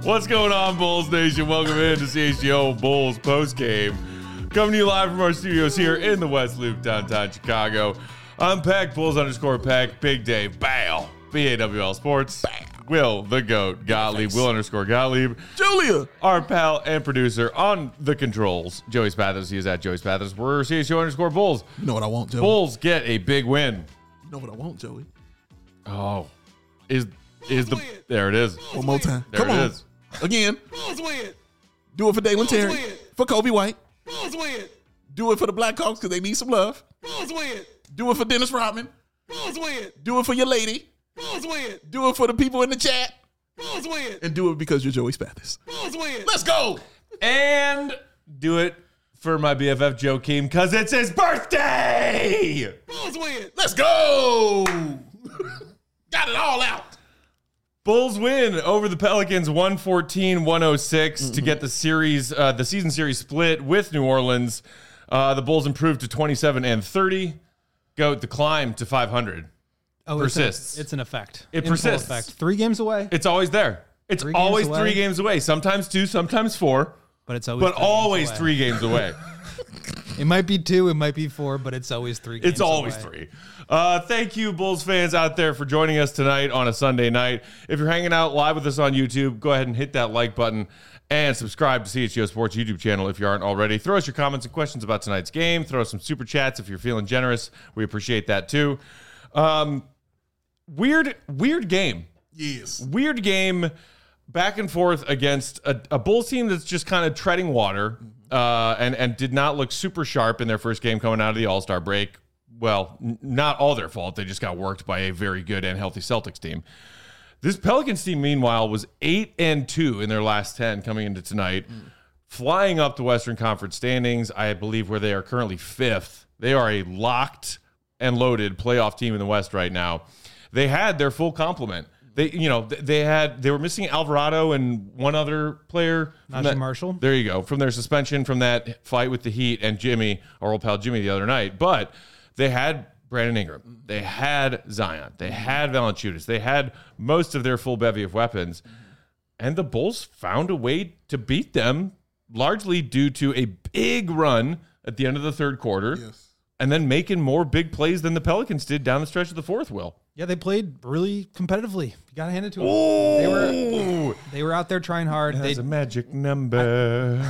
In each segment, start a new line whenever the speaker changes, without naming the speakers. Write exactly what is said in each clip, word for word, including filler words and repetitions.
What's going on, Bulls Nation? Welcome in to C H G O Bulls postgame. Coming to you live from our studios here in the West Loop, downtown Chicago. I'm Peck, Bulls underscore Peck, Big Dave, Bow, B A W L Sports, Bow. Will, the GOAT, Gottlieb, Will underscore Gottlieb,
Julia,
our pal and producer on the controls, Joey Spathers. He is at Joey Spathers. We're C H G O underscore Bulls.
You know what I want, Joey?
Bulls get a big win.
You know what I want, Joey?
Oh, is is the there it is.
One more time.
There
Come
it
on.
is.
Again.
Bulls win.
Do it for Dalen Terry.
win.
For Kobe White.
Bulls win.
Do it for the Blackhawks because they need some love.
Bulls win.
Do it for Dennis Rodman.
Bulls win.
Do it for your lady.
Bulls win.
Do it for the people in the chat.
Bulls win.
And do it because you're Joey Spathers.
Bulls win.
Let's go.
And do it for my B F F Joakim because it's his birthday.
Bulls win.
Let's go. Got it all out.
Bulls win over the Pelicans one fourteen one oh six mm-hmm. to get the series, uh, the season series split with New Orleans. Uh, the Bulls improved to twenty-seven and thirty. Goat, the climb to five hundred.
Oh,
persists.
It's, a, it's an effect.
It
In
persists.
Effect. Three games away.
It's always there. It's
three
always
games
three games away. Sometimes two, sometimes four.
But it's always
but
three
always
games away.
three games away.
It might be two, it might be four, but it's always three games
It's always
away.
three. Uh, thank you, Bulls fans out there, for joining us tonight on a Sunday night. If you're hanging out live with us on YouTube, go ahead and hit that like button and subscribe to C H G O Sports YouTube channel if you aren't already. Throw us your comments and questions about tonight's game. Throw us some super chats if you're feeling generous. We appreciate that too. Um, weird, weird game.
Yes.
Weird game. Back and forth against a, a Bulls team that's just kind of treading water uh, and, and did not look super sharp in their first game coming out of the All-Star break. Well, n- not all their fault. They just got worked by a very good and healthy Celtics team. This Pelicans team, meanwhile, was eight and two in their last ten coming into tonight, mm. flying up the Western Conference standings, I believe, where they are currently fifth. They are a locked and loaded playoff team in the West right now. They had their full complement. They, you know, they had they were missing Alvarado and one other player.
Najee Marshall.
There you go. From their suspension from that fight with the Heat and Jimmy, our old pal Jimmy, the other night. But they had Brandon Ingram. They had Zion. They had Valanciunas. They had most of their full bevy of weapons. And the Bulls found a way to beat them, largely due to a big run at the end of the third quarter.
Yes.
And then making more big plays than the Pelicans did down the stretch of the fourth, Will.
Yeah, they played really competitively. You got to hand it to them.
Ooh.
They were they were out there trying hard.
That's
They,
a magic number.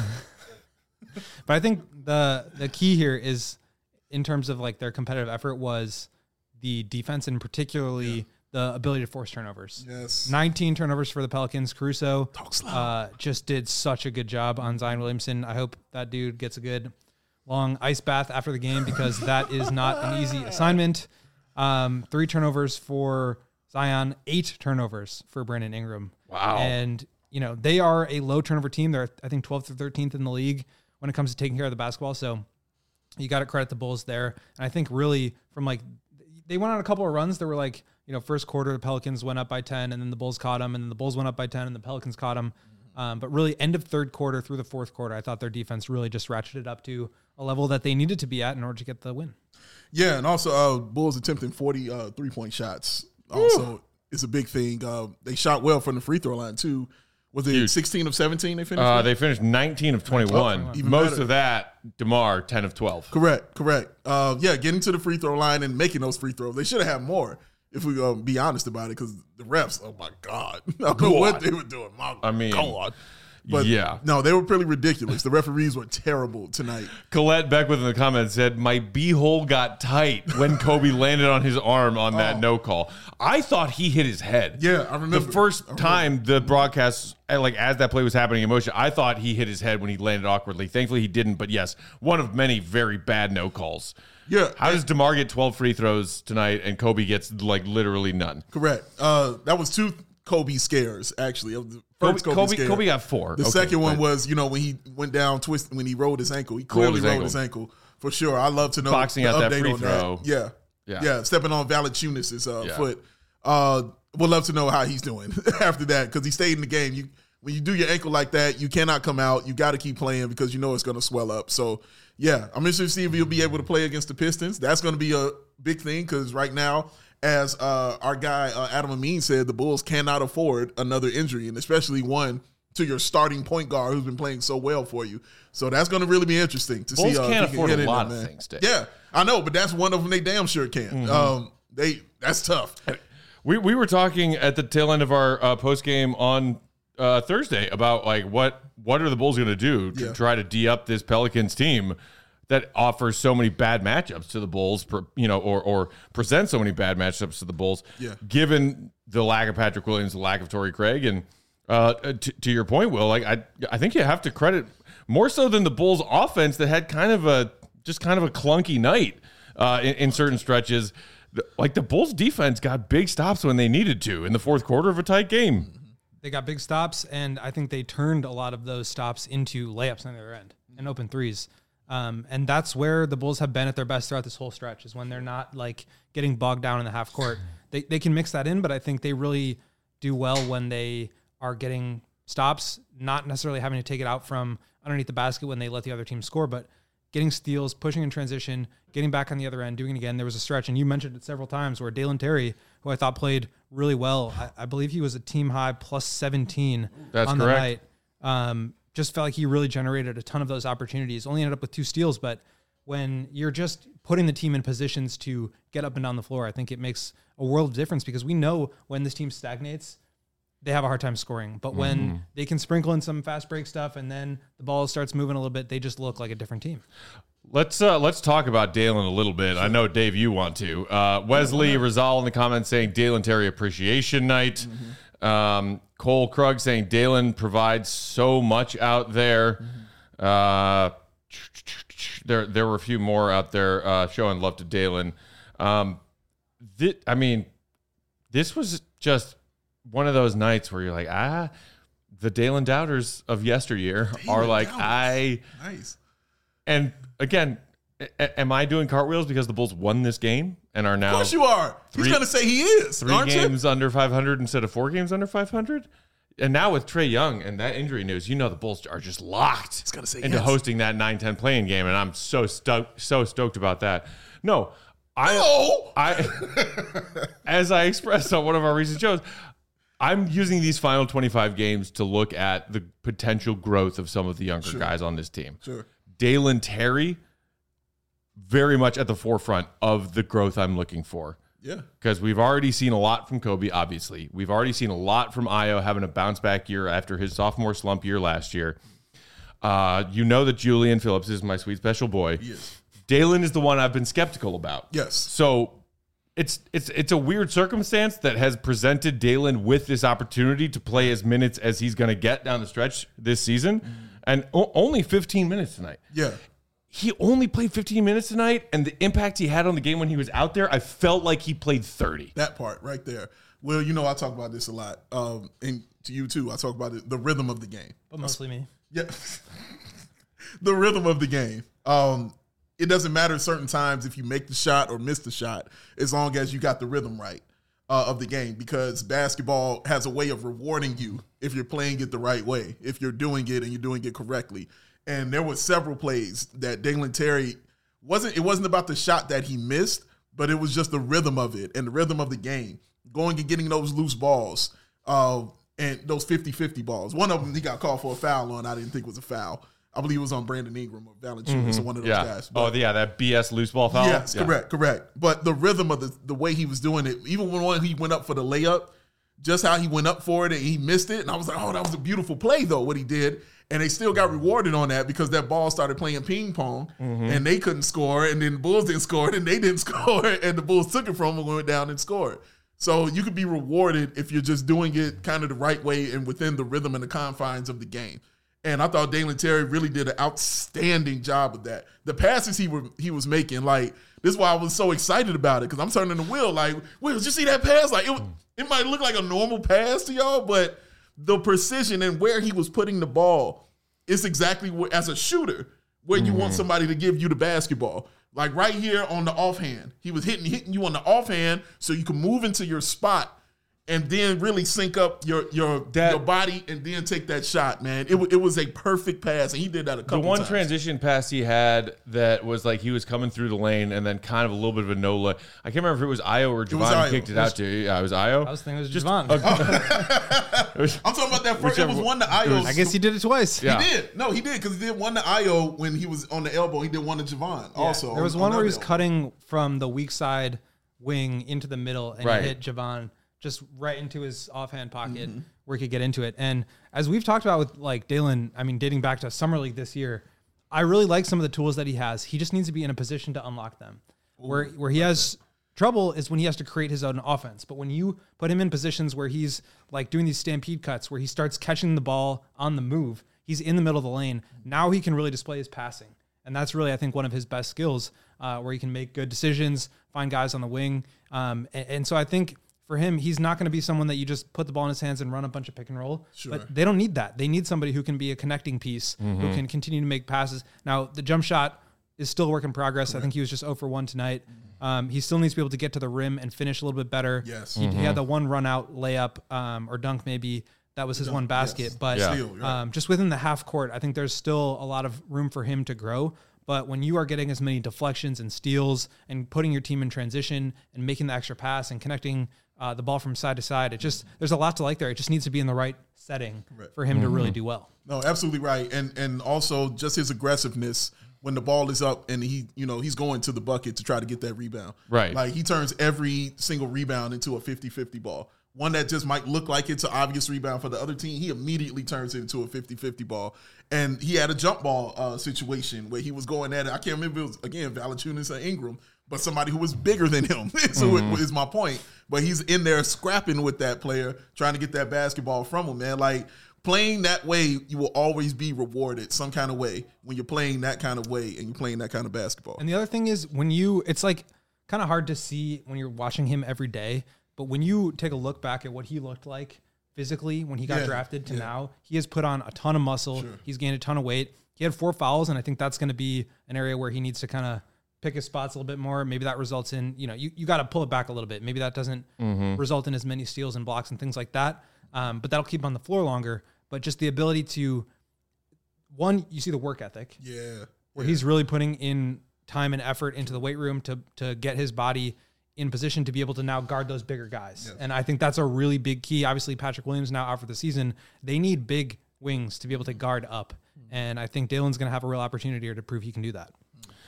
I, but I think the the key here is, in terms of like their competitive effort, was the defense and particularly yeah. the ability to force turnovers.
Yes.
nineteen turnovers for the Pelicans. Caruso
Talk slow.
uh, just did such a good job on Zion Williamson. I hope that dude gets a good long ice bath after the game because that is not an easy assignment. Um, three turnovers for Zion, eight turnovers for Brandon Ingram.
Wow.
And, you know, they are a low turnover team. They're, I think, twelfth or thirteenth in the league when it comes to taking care of the basketball. So you got to credit the Bulls there. And I think really from like, they went on a couple of runs. There were like, you know, first quarter, the Pelicans went up by ten and then the Bulls caught them and then the Bulls went up by ten and the Pelicans caught them. Um, but really end of third quarter through the fourth quarter, I thought their defense really just ratcheted up to a level that they needed to be at in order to get the win.
Yeah, and also uh, Bulls attempting forty uh, three-point shots. Also, Ooh. Is a big thing. Uh, they shot well from the free throw line, too. Was it Huge. sixteen of seventeen they finished
uh,
with?
They finished nineteen of twenty-one. Oh, Most better. Of that, DeMar, ten of twelve.
Correct, correct. Uh, yeah, getting to the free throw line and making those free throws. They should have had more, if we uh, be honest about it, because the refs, oh, my God. I don't know what they were doing. My
I mean,
God. But
yeah.
No, they were pretty ridiculous. The referees were terrible tonight.
Colette Beckwith in the comments said, my B-hole got tight when Kobe landed on his arm on that oh. no call. I thought he hit his head.
Yeah, I remember.
The first time the broadcast, like as that play was happening in motion, I thought he hit his head when he landed awkwardly. Thankfully, he didn't. But yes, one of many very bad no calls.
Yeah.
How does DeMar get twelve free throws tonight and Kobe gets like literally none?
Correct. Uh, that was two Kobe scares, actually. The first
Kobe,
Kobe,
Kobe, Kobe got four.
The
okay,
second one
but,
was, you know, when he went down, twist, when he rolled his ankle. He clearly rolled his ankle. rolled his ankle for sure. I love to know
boxing
the
out
update
that free
on
throw.
That. Yeah.
yeah,
yeah, stepping on Valanciunas' uh,
yeah.
foot. Uh, would love to know how he's doing after that because he stayed in the game. You when you do your ankle like that, you cannot come out. You got to keep playing because you know it's going to swell up. So yeah, I'm interested to see if he'll be able to play against the Pistons. That's going to be a big thing because right now, as uh, our guy uh, Adam Amin said, the Bulls cannot afford another injury, and especially one to your starting point guard who's been playing so well for you. So that's going to really be interesting to
Bulls
see. Uh,
can't
if he
afford
can
a
hit
lot
in
of
there, man.
things, Dave.
Yeah, I know, but that's one of them they damn sure can.
Mm-hmm.
Um, they that's tough.
We we were talking at the tail end of our uh, post game on uh, Thursday about like what what are the Bulls going to do to
Yeah.
try to D up this Pelicans team that offers so many bad matchups to the Bulls, per, you know, or or presents so many bad matchups to the Bulls.
Yeah.
Given the lack of Patrick Williams, the lack of Torrey Craig, and uh, to, to your point, Will, like I I think you have to credit more so than the Bulls offense that had kind of a just kind of a clunky night uh, in, in certain stretches. Like the Bulls defense got big stops when they needed to in the fourth quarter of a tight game.
They got big stops, and I think they turned a lot of those stops into layups on the other end and open threes. Um, and that's where the Bulls have been at their best throughout this whole stretch, is when they're not like getting bogged down in the half court. They they can mix that in, but I think they really do well when they are getting stops, not necessarily having to take it out from underneath the basket when they let the other team score, but getting steals, pushing in transition, getting back on the other end, doing it again. There was a stretch, and you mentioned it several times, where Dalen Terry, who I thought played really well, I, I believe he was a team high plus seventeen
That's
on
correct.
the night. Um, just felt like he really generated a ton of those opportunities. Only ended up with two steals, but when you're just putting the team in positions to get up and down the floor, I think it makes a world of difference, because we know when this team stagnates, they have a hard time scoring. But when
Mm-hmm.
they can sprinkle in some fast break stuff and then the ball starts moving a little bit, they just look like a different team.
Let's uh, let's talk about Dalen a little bit. I know, Dave, you want to. Uh, Wesley Rizal in the comments saying Dalen Terry appreciation night.
Mm-hmm.
Um, Cole Krug saying Dalen provides so much out there.
Mm-hmm.
Uh, there there were a few more out there uh, showing love to Dalen. Um, thi- I mean, this was just one of those nights where you're like, ah, the Dalen doubters of yesteryear are like,
doubters.
I.
Nice.
And again, a- am I doing cartwheels because the Bulls won this game and are
Of
now
course you are.
Three-
He's going to say he is,
three
aren't
games under five hundred instead of four games under five hundred? And now with Trae Young and that injury news, you know the Bulls are just locked
gonna say
into
yes.
hosting that nine ten playing game, and I'm so stoked, so stoked about that. No, I,
No!
I, as I expressed on one of our recent shows, I'm using these final twenty-five games to look at the potential growth of some of the younger
Sure.
guys on this team.
Sure.
Dalen Terry, very much at the forefront of the growth I'm looking for.
Yeah.
Because we've already seen a lot from Kobe, obviously. We've already seen a lot from Ayo having a bounce back year after his sophomore slump year last year. Uh, you know that Julian Phillips is my sweet special boy.
He is.
Dalen is the one I've been skeptical about.
Yes.
So it's it's it's a weird circumstance that has presented Dalen with this opportunity to play as minutes as he's going to get down the stretch this season, and o- only fifteen minutes tonight.
Yeah.
He only played fifteen minutes tonight, and the impact he had on the game when he was out there, I felt like he played thirty.
That part right there. Well, you know, I talk about this a lot. Um, and to you too, I talk about it, the rhythm of the game.
But mostly me.
Yeah. The rhythm of the game. Um, it doesn't matter certain times if you make the shot or miss the shot, as long as you got the rhythm right uh, of the game, because basketball has a way of rewarding you if you're playing it the right way, if you're doing it and you're doing it correctly. And there were several plays that Dalen Terry wasn't, it wasn't about the shot that he missed, but it was just the rhythm of it and the rhythm of the game, going and getting those loose balls uh, and those fifty-fifty balls. One of them he got called for a foul on, I didn't think was a foul. I believe it was on Brandon Ingram or Valanciunas or one of those
Yeah.
guys.
Oh, yeah, that B S loose ball foul.
Yes,
Yeah.
correct, correct. But the rhythm of the the way he was doing it, even when one he went up for the layup, just how he went up for it and he missed it, and I was like, oh, that was a beautiful play though, what he did. And they still got rewarded on that because that ball started playing ping pong and they couldn't score, and then the Bulls didn't score, and they didn't score, and the Bulls took it from them and went down and scored. So you could be rewarded if you're just doing it kind of the right way and within the rhythm and the confines of the game. And I thought Dalen Terry really did an outstanding job of that. The passes he were he was making, like, this is why I was so excited about it, because I'm turning the wheel like, Will, did you see that pass? Like, it, was- it might look like a normal pass to y'all, but the precision and where he was putting the ball is exactly what, as a shooter, where you want somebody to give you the basketball. Like right here on the offhand, he was hitting hitting you on the offhand so you can move into your spot and then really sync up your your
That-
your body and then take that shot, man. It, wa- it was a perfect pass, and he did that a
The
couple
one
times.
transition pass he had that was like he was coming through the lane and then kind of a little bit of a no look. I can't remember if it was Io or
was
Javon
Io.
who kicked it,
It was-
out to. Yeah, it was Io.
I was thinking it was
Just
Javon.
It was-
I'm talking about that first. It
Whichever
was
one-
one to Io.
I guess he did it twice.
Yeah.
He did. No, he did because he did one to Io when he was on the elbow. He did one to Javon also.
There was
on-
one
on
where
that
he was
elbow.
cutting from the weak side wing into the middle and
Right.
he hit Javon just right into his offhand pocket
Mm-hmm.
where he could get into it. And as we've talked about with like Dalen, I mean, dating back to Summer League this year, I really like some of the tools that he has. He just needs to be in a position to unlock them. Where where he has trouble is when he has to create his own offense. But when you put him in positions where he's like doing these stampede cuts, where he starts catching the ball on the move, he's in the middle of the lane. Now he can really display his passing. And that's really, I think, one of his best skills, uh, where he can make good decisions, find guys on the wing. Um, and, and so I think for him, he's not going to be someone that you just put the ball in his hands and run a bunch of pick and roll.
Sure.
But they don't need that. They need somebody who can be a connecting piece, who can continue to make passes. Now, the jump shot is still a work in progress. I think he was just zero for one tonight. Um, he still needs to be able to get to the rim and finish a little bit better.
Yes.
He, he had the one run out layup um, or dunk maybe. That was his one basket.
yes.
But
Yeah.
Steal, you're right.
um, just within the half court, I think there's still a lot of room for him to grow. But when you are getting as many deflections and steals and putting your team in transition and making the extra pass and connecting uh, the ball from side to side, it just there's a lot to like there. It just needs to be in the right setting for him to really do well.
No, absolutely right. And and also just his aggressiveness when the ball is up and he, you know, he's going to the bucket to try to get that rebound.
Right.
Like he turns every single rebound into a fifty-fifty ball. One that just might look like it's an obvious rebound for the other team, he immediately turns it into a fifty-fifty ball. And he had a jump ball uh, situation where he was going at it. I can't remember if it was, again, Valanciunas or Ingram, but somebody who was bigger than him. so
Mm-hmm.
it is my point. But he's in there scrapping with that player, trying to get that basketball from him, man. Like, playing that way, you will always be rewarded some kind of way when you're playing that kind of way and you're playing that kind of basketball.
And the other thing is when you, it's like kind of hard to see when you're watching him every day, but when you take a look back at what he looked like physically when he got
Yeah,
drafted to
yeah.
now, he has put on a ton of muscle.
Sure.
He's gained a ton of weight. He had four fouls, and I think that's going to be an area where he needs to kind of pick his spots a little bit more. Maybe that results in, you know, you, you got to pull it back a little bit. Maybe that doesn't result in as many steals and blocks and things like that. Um, but that'll keep him on the floor longer. But just the ability to, one, you see the work ethic
yeah.
where he's really putting in time and effort into the weight room to to get his body in position to be able to now guard those bigger guys.
Yes.
And I think that's a really big key. Obviously, Patrick Williams now out for the season. They need big wings to be able to guard up. And I think Dalen's going to have a real opportunity here to prove he can do that.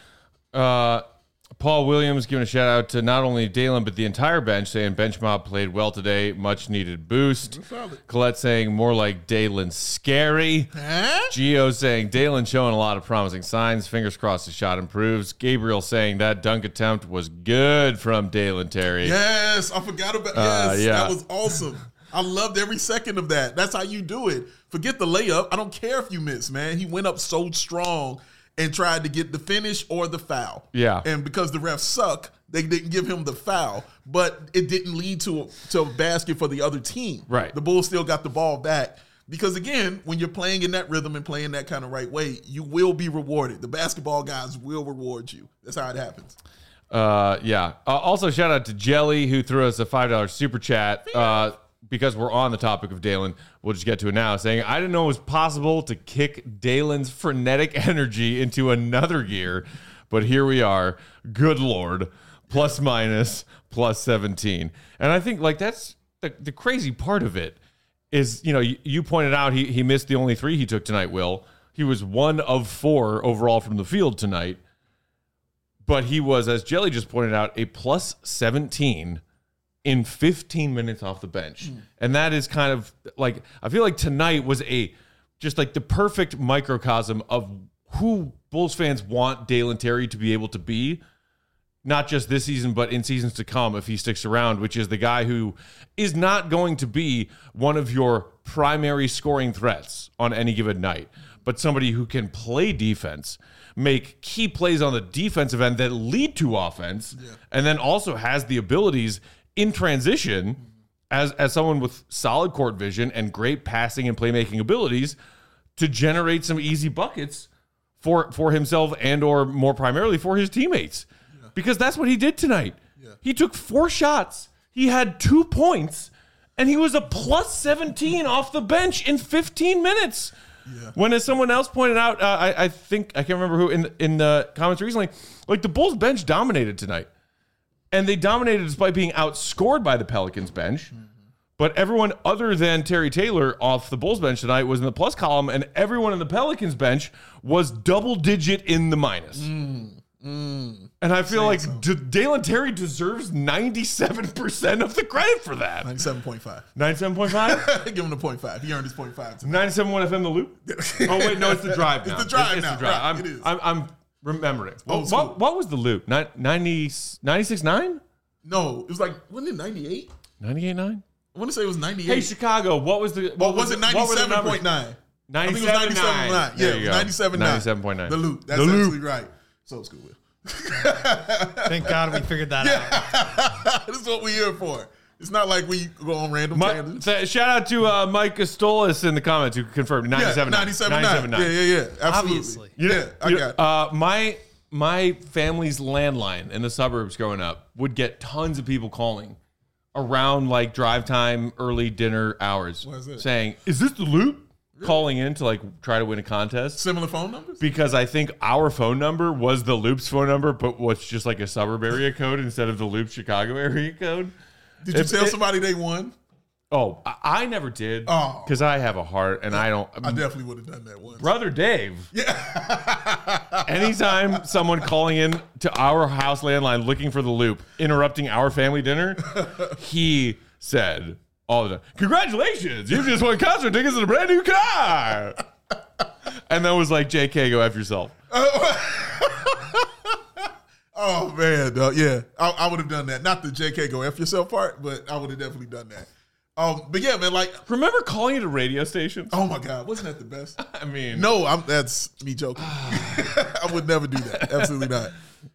Uh, Paul Williams giving a shout out to not only Dalen, but the entire bench, saying bench mob played well today. Much needed boost. Colette saying more like Dalen scary. Gio saying Dalen showing a lot of promising signs. Fingers crossed his shot improves. Gabriel saying that dunk attempt was good from Dalen Terry.
Yes, I forgot about
Uh,
yes,
yeah.
that was awesome. I loved every second of that. That's how you do it. Forget the layup. I don't care if you miss, man. He went up so strong and tried to get the finish or the foul.
Yeah.
And because the refs suck, they didn't give him the foul, but it didn't lead to a, to a basket for the other team.
Right.
The Bulls still got the ball back. Because again, when you're playing in that rhythm and playing that kind of right way, you will be rewarded. The basketball guys will reward you. That's how it happens.
Uh, yeah. Uh, also, shout out to Jelly, who threw us a five dollar super chat. Uh, because we're on the topic of Dalen, we'll just get to it now, saying, I didn't know it was possible to kick Dalen's frenetic energy into another gear, but here we are. Good Lord. Plus minus, plus seventeen. And I think, like, that's the, the crazy part of it is, you know, you, you pointed out he, he missed the only three he took tonight, Will. He was one of four overall from the field tonight. But he was, as Jelly just pointed out, a plus seventeen in fifteen minutes off the bench. Mm. And that is kind of like, I feel like tonight was a, just like the perfect microcosm of who Bulls fans want Dalen Terry to be able to be, not just this season, but in seasons to come if he sticks around, which is the guy who is not going to be one of your primary scoring threats on any given night, but somebody who can play defense, make key plays on the defensive end that lead to offense, yeah. and then also has the abilities in transition as, as someone with solid court vision and great passing and playmaking abilities to generate some easy buckets for, for himself and or more primarily for his teammates. Because that's what he did tonight. Yeah. He took four shots. He had two points. and he was a plus seventeen off the bench in fifteen minutes. Yeah. When, as someone else pointed out, uh, I, I think I can't remember who in in the comments recently, like the Bulls bench dominated tonight, and they dominated despite being outscored by the Pelicans bench. Mm-hmm. But everyone other than Terry Taylor off the Bulls bench tonight was in the plus column, and everyone in the Pelicans bench was double digit in the minus. Mm, mm, and I feel like so. D- Dalen Terry deserves ninety-seven percent of the credit for that.
ninety-seven point five.
ninety-seven point five?
Give him the point five. He earned his point five.
ninety-seven point one F M The Loop? Oh, wait, no, it's the drive now.
It's the drive
it's,
now.
It's the drive.
Right,
I'm,
it is.
I'm, I'm remembering.
Oh,
what, what, what was the Loop? ninety, ninety-six nine?
No, it was like, wasn't it ninety-eight?
ninety-eight nine?
I want to say it was ninety-eight.
Hey, Chicago, what was the... What
well,
was,
was it
the,
ninety-seven point nine? I think it was ninety-seven point nine. Yeah, it was ninety-seven point nine.
ninety-seven point nine.
The Loop. That's
the
absolutely
loop.
right. So it's good, Will.
Thank God we figured that out.
This is what we're here for. It's not like we go on random
My,
tangents.
th- shout out to uh, Mike Costolis in the comments who confirmed ninety-seven
yeah, ninety-seven point nine. Yeah, yeah, yeah. Absolutely.
Obviously.
You know,
yeah, I
you
got
know, uh, my my family's landline in the suburbs growing up would get tons of people calling around like drive time, early dinner hours,
What is it?
saying, "Is this the Loop?" Really? Calling in to like try to win a contest.
Similar phone numbers?
Because I think our phone number was the Loop's phone number, but was just like a suburb area code instead of the Loop Chicago area code.
Did you
If
tell
it-
somebody they won?
Oh, I, I never did.
Oh.
Because I have a heart and I don't.
I definitely would have done that once.
Brother Dave. Yeah. Anytime someone calling in to our house landline looking for the Loop, interrupting our family dinner, he said all the time, "Congratulations, you just won concert tickets and a brand new car." And then was like, "J K, go F yourself."
Oh, man. Uh, yeah, I, I would have done that. Not the J K go F yourself part, but I would have definitely done that. Um, but yeah, man, like,
Remember calling it a radio station?
oh my God, wasn't that the best?
I mean,
No, I'm, that's me joking. I would never do that. Absolutely not.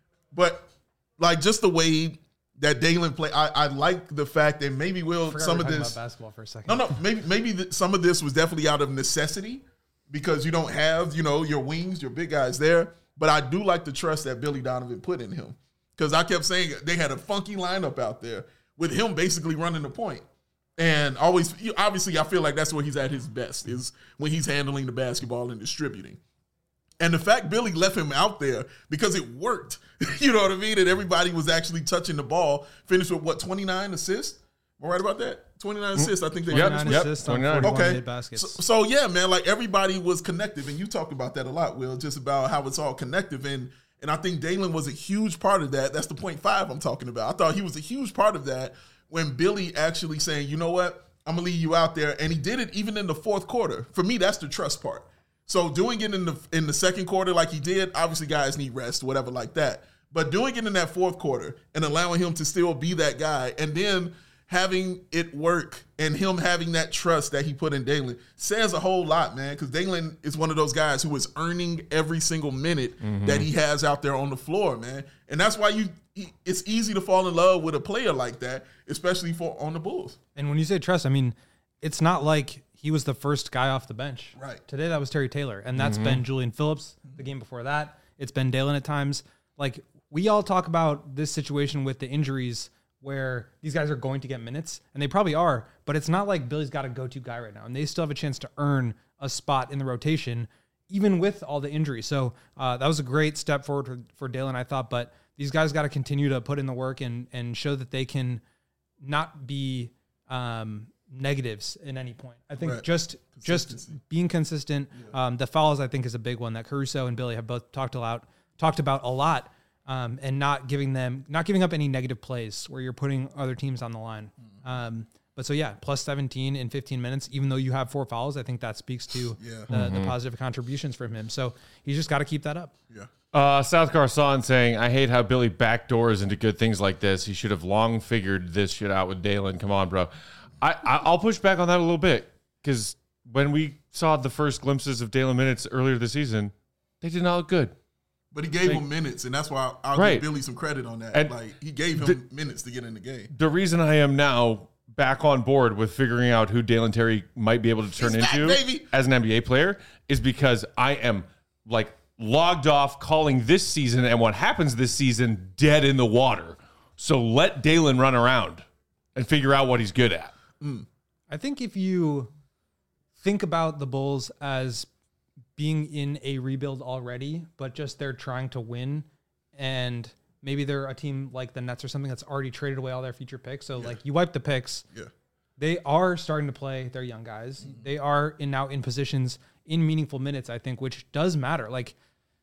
But like just the way that Dalen played, I, I like the fact that maybe will
Forgot
some
we
of
were talking
this.
about basketball for a second.
No, no, maybe maybe the, some of this was definitely out of necessity because you don't have, you know, your wings, your big guys there. But I do like the trust that Billy Donovan put in him because I kept saying they had a funky lineup out there with him basically running the point. And always, obviously, I feel like that's where he's at his best is when he's handling the basketball and distributing. And the fact Billy left him out there because it worked, you know what I mean? And everybody was actually touching the ball. Finished with what, twenty-nine assists? Am I right about that? twenty-nine assists. I think they
Yep,
finished
twenty-nine
with.
yep,
assists on
twenty-nine.
forty-one
Okay.
made baskets.
So, so yeah, man, like everybody was connective, and you talked about that a lot, Will, just about how it's all connective, and and I think Dalen was a huge part of that. That's the point five I'm talking about. I thought he was a huge part of that when Billy actually saying, you know what, I'm gonna leave you out there, and he did it even in the fourth quarter. For me, that's the trust part. So doing it in the in the second quarter like he did, obviously guys need rest, whatever like that. But doing it in that fourth quarter and allowing him to still be that guy, and then having it work and him having that trust that he put in Dalen says a whole lot, man, because Dalen is one of those guys who is earning every single minute mm-hmm. that he has out there on the floor, man. And that's why you it's easy to fall in love with a player like that, especially for on the Bulls.
And when you say trust, I mean, it's not like he was the first guy off the bench.
Right.
Today, that was Terry Taylor, and that's
Mm-hmm.
been Julian Phillips. The game before that, it's been Dalen at times. Like, we all talk about this situation with the injuries where these guys are going to get minutes, and they probably are, but it's not like Billy's got a go-to guy right now, and they still have a chance to earn a spot in the rotation, even with all the injuries. So uh, that was a great step forward for, for Dalen, I thought, but these guys got to continue to put in the work and and show that they can not be um, negatives in any point. I think
Right.
just just being consistent. Yeah. Um, the fouls, I think, is a big one that Caruso and Billy have both talked about talked about a lot. Um, and not giving them, not giving up any negative plays where you're putting other teams on the line. Mm-hmm. Um, but so yeah, plus seventeen in fifteen minutes, even though you have four fouls, I think that speaks to
Yeah.
the,
Mm-hmm.
the positive contributions from him. So he's just got to keep that up.
Yeah.
Uh, South Garcon saying, I hate how Billy backdoors into good things like this. He should have long figured this shit out with Dalen. Come on, bro. I, I, I'll push back on that a little bit because when we saw the first glimpses of Dalen minutes earlier this season, they did not look good.
But he gave
Like,
him minutes, and that's why I'll
right.
give Billy some credit on that.
And
like he gave him
the,
minutes to get in the game.
The reason I am now back on board with figuring out who Dalen Terry might be able to turn
He's
into
back, baby.
as an N B A player is because I am like logged off calling this season and what happens this season dead in the water. So let Dalen run around and figure out what he's good at.
Mm.
I think if you think about the Bulls as being in a rebuild already, but just they're trying to win, and maybe they're a team like the Nets or something that's already traded away all their future picks. So yeah. like you wipe the picks.
Yeah.
They are starting to play their young guys. Mm-hmm. They are in now in positions in meaningful minutes, I think, which does matter. Like,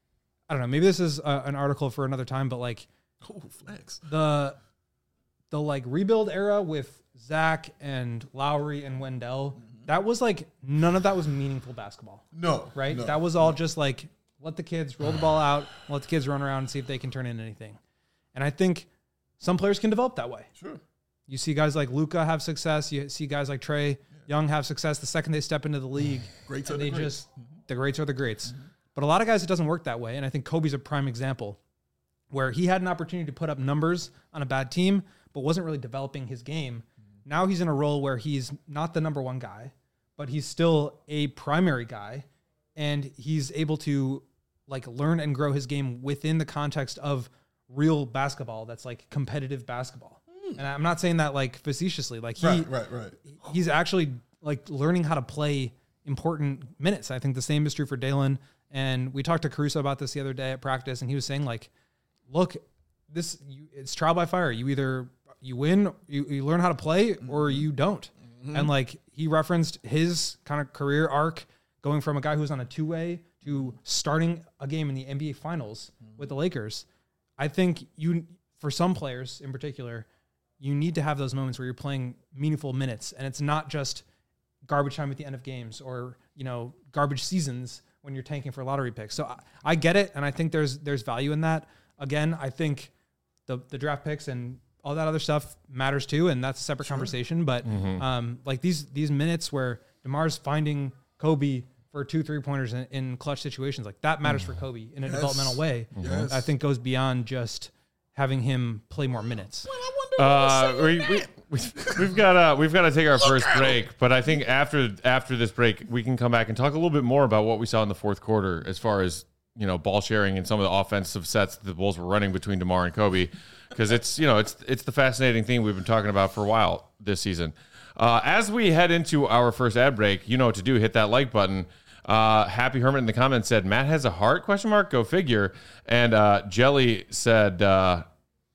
I don't know, maybe this is a, an article for another time, but like
oh, flex.
the, the like rebuild era with Zach and Lowry and Wendell, mm-hmm. that was like, none of that was meaningful basketball.
No.
Right?
No,
that was all
no.
just like, let the kids roll the ball out, let the kids run around and see if they can turn in anything. And I think some players can develop that way.
Sure.
You see guys like Luka have success. You see guys like Trae yeah. Young have success the second they step into the league.
Greats
and
are the
they
greats.
just the greats are the greats. Mm-hmm. But a lot of guys, it doesn't work that way. And I think Kobe's a prime example where he had an opportunity to put up numbers on a bad team, but wasn't really developing his game. Mm-hmm. Now he's in a role where he's not the number one guy, but he's still a primary guy. And he's able to like learn and grow his game within the context of real basketball. That's like competitive basketball. And I'm not saying that like facetiously, like he,
right, right, right.
he's actually like learning how to play important minutes. I think the same is true for Dalen. And we talked to Caruso about this the other day at practice, and he was saying like, look, this you, it's trial by fire. You either you win, you, you learn how to play, or you don't. Mm-hmm. And like he referenced his kind of career arc going from a guy who was on a two way to starting a game in the N B A Finals mm-hmm. with the Lakers. I think you, for some players in particular, you need to have those moments where you're playing meaningful minutes, and it's not just garbage time at the end of games or, you know, garbage seasons when you're tanking for lottery picks. So I, I get it, and I think there's there's value in that. Again, I think the the draft picks and all that other stuff matters too, and that's a separate sure. conversation. But mm-hmm. um, like these these minutes where DeMar's finding Kobe for two three pointers in, in clutch situations, like that matters for Kobe in a
yes.
developmental way.
Yes.
I think goes beyond just having him play more minutes.
Well,
Uh, we, we, we, we've got uh, we've got to take our first break, but I think after after this break, we can come back and talk a little bit more about what we saw in the fourth quarter as far as, you know, ball sharing and some of the offensive sets that the Bulls were running between DeMar and Kobe, because it's, you know, it's it's the fascinating thing we've been talking about for a while this season. Uh, as we head into our first ad break, you know what to do. Hit that like button. Uh, Happy Hermit in the comments said, Matt has a heart, question mark, go figure. And uh, Jelly said, uh,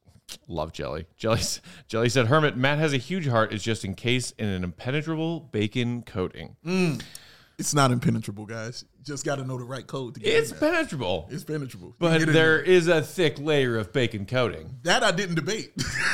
love Jelly. Jelly Jelly said, Hermit, Matt has a huge heart. It's just encased in an impenetrable bacon coating.
Mm. It's not impenetrable, guys. Just got to know the right code to get
It's
in there.
penetrable.
It's penetrable.
But
Get in
there is a thick layer of bacon coating.
That I didn't debate.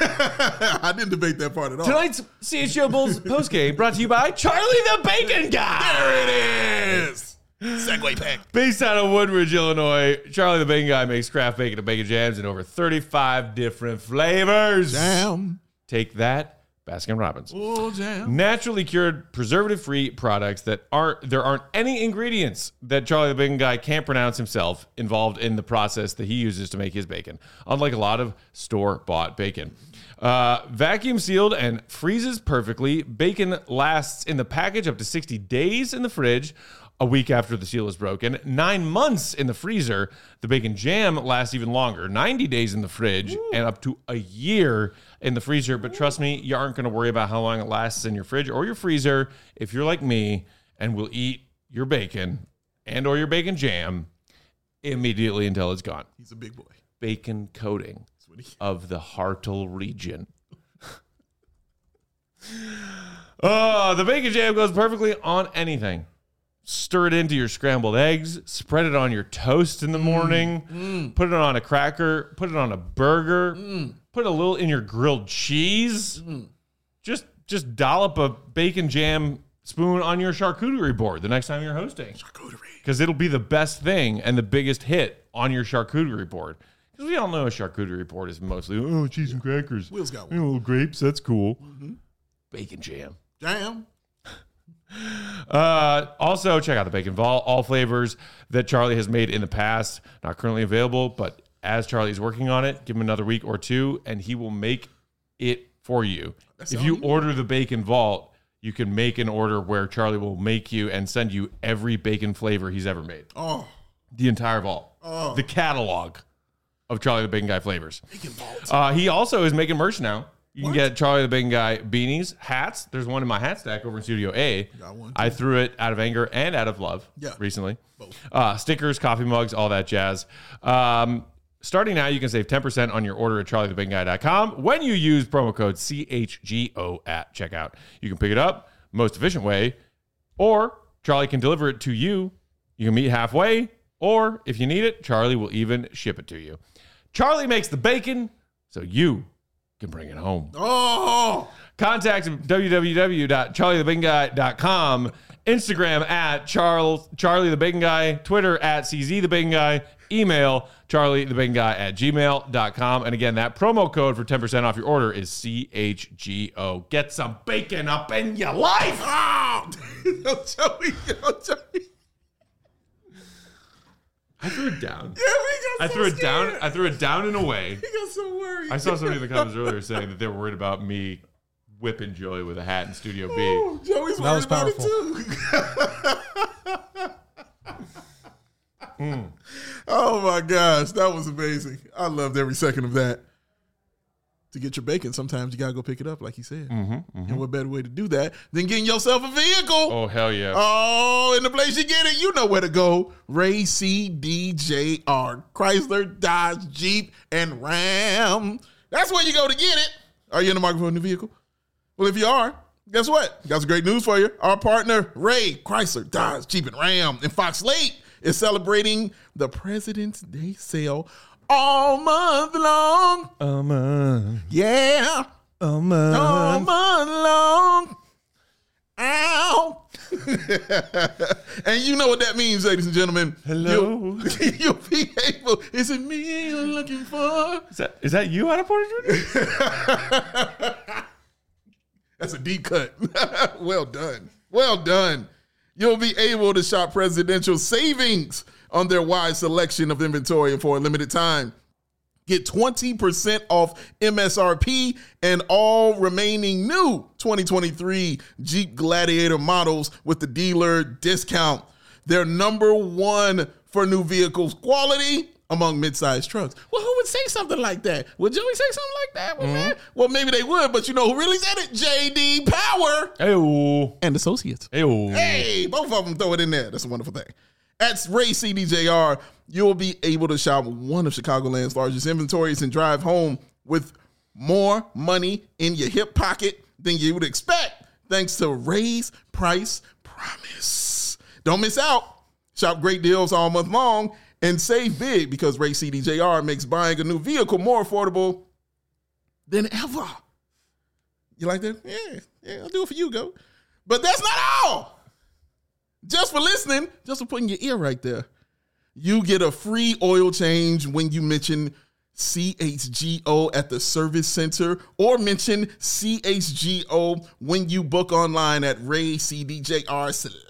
I didn't debate that part at all.
Tonight's C H G O Bulls postgame brought to you by Charlie the Bacon Guy.
There it is. Segway pack.
Based out of Woodridge, Illinois, Charlie the Bacon Guy makes craft bacon and bacon jams in over thirty-five different flavors.
Jam.
Take that, Baskin Robbins.
Oh, jam.
Naturally cured, preservative-free products that aren't, there aren't any ingredients that Charlie the Bacon Guy can't pronounce himself involved in the process that he uses to make his bacon, unlike a lot of store-bought bacon. Uh, vacuum sealed and freezes perfectly. Bacon lasts in the package up to sixty days in the fridge, a week after the seal is broken, nine months in the freezer. The bacon jam lasts even longer, ninety days in the fridge, Ooh. and up to a year in the freezer. But trust me, you aren't going to worry about how long it lasts in your fridge or your freezer if you're like me and will eat your bacon and or your bacon jam immediately until it's gone.
He's a big boy.
Bacon coating of the Hartle region. Oh, the bacon jam goes perfectly on anything. Stir it into your scrambled eggs, spread it on your toast in the morning, mm, mm. put it on a cracker, put it on a burger, mm. put a little in your grilled cheese. Mm. Just just dollop a bacon jam spoon on your charcuterie board the next time you're hosting.
Charcuterie.
Because it'll be the best thing and the biggest hit on your charcuterie board. Because we all know a charcuterie board is mostly, oh, cheese and crackers.
Will's got one.
You know, little grapes, that's cool.
Mm-hmm.
Bacon jam.
Jam.
Uh, also, check out the Bacon Vault. All flavors that Charlie has made in the past, not currently available, but as Charlie's working on it, give him another week or two, and he will make it for you. That's if you you order the Bacon Vault, you can make an order where Charlie will make you and send you every bacon flavor he's ever made.
Oh,
the entire vault,
oh,
the catalog of Charlie the Bacon Guy flavors.
Bacon Vault.
Uh, he also is making merch now. You can get Charlie the Bacon Guy beanies, hats. There's one in my hat stack over in Studio A.
Got one, too.
I threw it out of anger and out of love
Yeah.
recently.
Both.
Uh, stickers, coffee mugs, all that jazz. Um, starting now, you can save ten percent on your order at charlie the bacon guy dot com when you use promo code C H G O at checkout. You can pick it up most efficient way, or Charlie can deliver it to you. You can meet halfway, or if you need it, Charlie will even ship it to you. Charlie makes the bacon, so you can bring it home.
Oh,
Contact him, w w w dot charlie the bacon guy dot com, Instagram at Charles, Charlie the Bacon Guy, Twitter at C Z the Bacon Guy, email charlie the bacon guy at gmail dot com. And again, that promo code for ten percent off your order is C H G O. Get some bacon up in your life.
oh. Yo, Joey, yo, Joey.
I threw it down.
Yeah, we got
I
so
threw it down.
scared.
I threw it down and away.
He got so worried.
I saw somebody in the comments earlier saying that they were worried about me whipping Joey with a hat in Studio B.
Oh, Joey's
That
worried
was
about
powerful.
it too. mm. Oh my gosh, that was amazing. I loved every second of that. To get your bacon, sometimes you gotta go pick it up, like he said.
Mm-hmm, mm-hmm.
And what better way to do that than getting yourself a vehicle?
Oh, hell yeah.
Oh, in the place you get it, you know where to go. Ray C D J R. Chrysler, Dodge, Jeep, and Ram. That's where you go to get it. Are you in the market for a new vehicle? Well, if you are, guess what? Got some great news for you. Our partner, Ray, Chrysler, Dodge, Jeep, and Ram in Fox Lake is celebrating the President's Day sale all month long.
Oh, man.
Yeah.
Oh, man.
All month long. Ow. And you know what that means, ladies and gentlemen.
Hello.
You'll, you'll be able. Is it me you're looking for?
Is that, is that you, Anna Porter Junior?
That's a deep cut. Well done. Well done. You'll be able to shop presidential savings on their wide selection of inventory and for a limited time. Get twenty percent off M S R P and all remaining new twenty twenty-three Jeep Gladiator models with the dealer discount. They're number one for new vehicles quality among mid-sized trucks. Well, who would say something like that? Would Joey say something like that? Well, man, well, maybe they would, but you know who really said it? J D Power
Hey-oh.
and Associates.
Hey-oh.
Hey, both of them throw it in there. That's a wonderful thing. At Ray C D J R, you'll be able to shop one of Chicagoland's largest inventories and drive home with more money in your hip pocket than you would expect, thanks to Ray's Price Promise. Don't miss out. Shop great deals all month long and save big because Ray C D J R makes buying a new vehicle more affordable than ever. You like that? Yeah, yeah, I'll do it for you, go. But that's not all. Just for listening, just for putting your ear right there, you get a free oil change when you mention C H G O at the service center or mention C H G O when you book online at Ray C D J R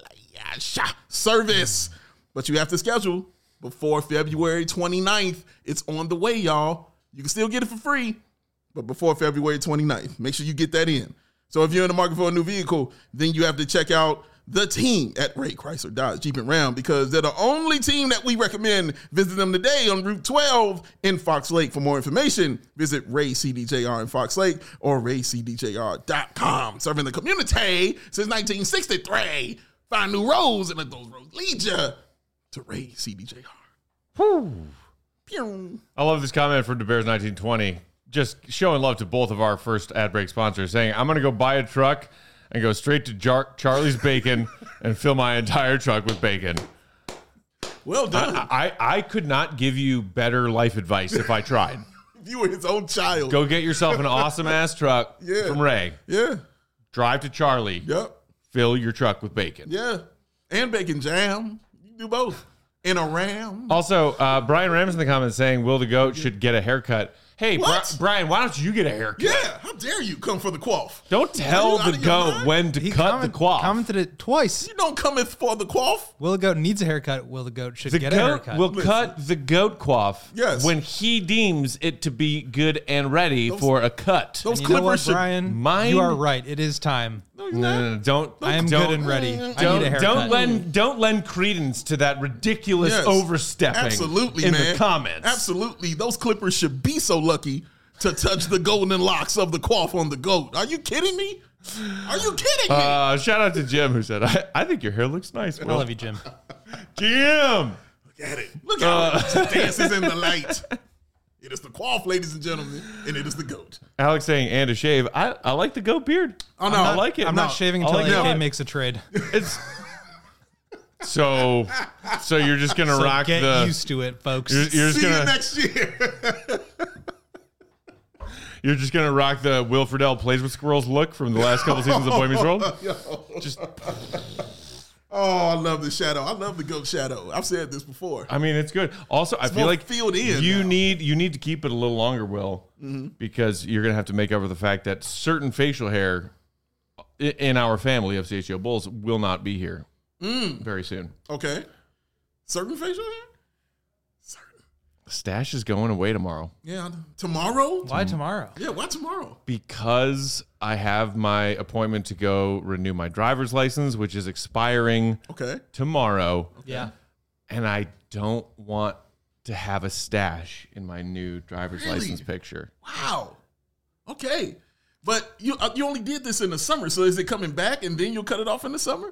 service. But you have to schedule before February twenty-ninth. It's on the way, y'all. You can still get it for free, but before February twenty-ninth, make sure you get that in. So if you're in the market for a new vehicle, then you have to check out the team at Ray Chrysler, Dodge, Jeep, and Ram because they're the only team that we recommend. Visit them today on Route twelve in Fox Lake. For more information, visit Ray C D J R in Fox Lake or ray c d j r dot com. Serving the community since nineteen sixty-three. Find new roads and let those roads lead you to Ray C D J R.
Whew.
Pew.
I love this comment from DeBears nineteen twenty. Just showing love to both of our first ad break sponsors, saying, I'm going to go buy a truck and go straight to Jar- Charlie's Bacon and fill my entire truck with bacon.
Well done.
I, I, I could not give you better life advice if I tried.
If you were his own child.
Go get yourself an awesome-ass truck
Yeah.
from Ray.
Yeah.
Drive to Charlie.
Yep.
Fill your truck with bacon.
Yeah. And bacon jam. You can do both. In a Ram.
Also, uh, Brian Rams in the comments saying, Will the Goat should get a haircut. Hey, Bri-
What?
Brian, why don't you get a haircut?
Yeah. How dare you come for the quaff?
Don't tell
Are you out
the
of your
goat
mind?
when to
He
cut
comment-
the quaff.
commented it twice.
You don't come in for the quaff.
Will the goat needs a haircut? Will the goat should
The
get a
goat
haircut?
will
Listen.
cut the goat quaff
Yes.
when he deems it to be good and ready for a cut.
Those
you know what,
clippers should.
Brian?
Mine-
You are right. It is time.
No, you're
No,
not.
no, no, don't.
I am
don't,
good and ready. I
Don't,
need a haircut.
don't lend don't lend credence to that ridiculous
Yes.
overstepping
Absolutely,
in
man.
the comments.
Absolutely. Those clippers should be so lucky to touch the golden locks of the quaff on the goat. Are you kidding me? Are you kidding me?
Uh, shout out to Jim who said, I, I think your hair looks nice.
I
Will.
love you, Jim.
Jim.
Look at it. Look how it dances in the light. It is the quaff, ladies and gentlemen, and it is the goat.
Alex saying, and a shave. I, I like the goat beard.
Oh, no.
I like it.
I'm
No,
not shaving
I
until
like
A K
it.
makes a trade.
It's so. So you're just gonna
So
rock
get
the.
used to it, folks.
You're, you're just
See you
gonna.
next year.
You're just gonna rock the Will Friedle plays with squirrels look from the last couple seasons of Boy Meets World. Just.
Oh, I love the shadow. I love the goat shadow. I've said this before.
I mean, it's good. Also, I feel
more
like
filled in
you
now.
need you need to keep it a little longer, Will,
Mm-hmm.
because you're gonna have to make up for the fact that certain facial hair i- in our family of C H O Bulls will not be here
Mm.
very soon.
Okay. Certain facial hair? Certain.
The stash is going away tomorrow
Yeah. Tomorrow?
Why tomorrow?
Yeah, why tomorrow?
because I have my appointment to go renew my driver's license, which is expiring
Okay.
tomorrow,
Yeah.
and I don't want to have a stash in my new driver's
Really?
license picture.
Wow. Okay. But you uh, you only did this in the summer, so is it coming back and then you'll cut it off in the summer?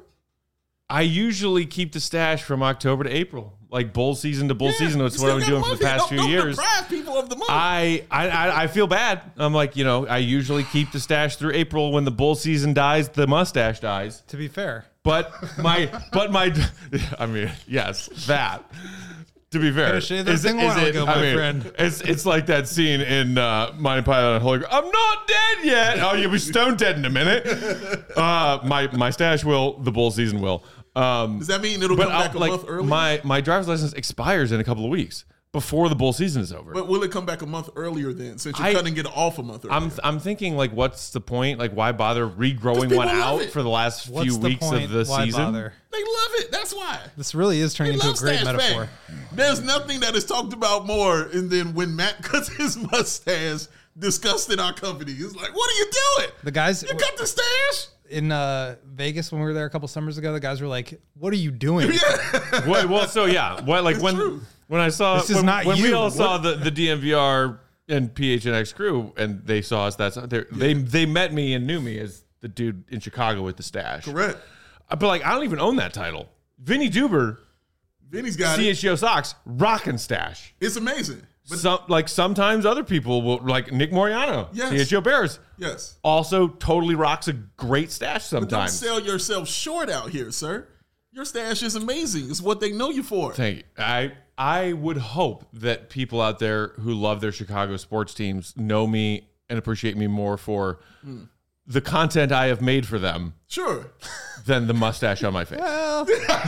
I usually keep the stash from October to April, like bull season to bull
Yeah,
season. That's
you
what I've
still
been doing
got
for the
month
past
here.
few
Don't- don't
years.
deprive people of the month.
I, I I I feel bad. I'm like, you know, I usually keep the stash through April. When the bull season dies, the mustache dies.
To be fair,
But my, but my, I mean, yes, that. To be fair,
Gotta shave that thing a while ago, my friend.
It's it's like that scene in uh, Monty Python and Holy Grail. I'm not dead yet. Oh, you'll be stone dead in a minute. Uh, my my stash will. The bull season will. Um,
Does that mean it'll
but
come back
I'll-
a
like
month early?
my my driver's license expires in a couple of weeks before the bull season is over.
but will it come back a month earlier then, since you're
I-
cutting it off a month earlier?
I'm I'm thinking like, what's the point? Like, why bother regrowing
people
one
love
out
it.
for the last
what's
few
the
weeks
point?
of the
Why
season?
bother?
they love it. That's why.
This really is turning
They
into a
love
great
stash
metaphor.
bang. There's nothing that is talked about more and then when Matt cuts his mustache discussed in our company. It's like, what are you doing?
The guys
You cut the stash?
in uh, Vegas when we were there a couple summers ago, the guys were like, "What are you doing?"
What, well, so yeah, what like when
true.
when I saw
This is
when,
not
when we
you.
all
What-
saw the the D M V R and P H N X crew and they saw us. That's they they they met me and knew me as the dude in Chicago with the stash.
Correct.
But like, I don't even own that title. Vinny Duber,
Vinny's got
C
it.
H G O Sox, rockin' stash.
It's amazing. But
Some like sometimes other people will like Nick Moriano,
Yes.
C H G O Bears,
yes.
also totally rocks a great stash
But don't
sometimes.
sell yourself short out here, sir. Your stash is amazing. It's what they know you for.
Thank you. I I would hope that people out there who love their Chicago sports teams know me and appreciate me more for the content I have made for them
Sure.
than the mustache on my face.
Well,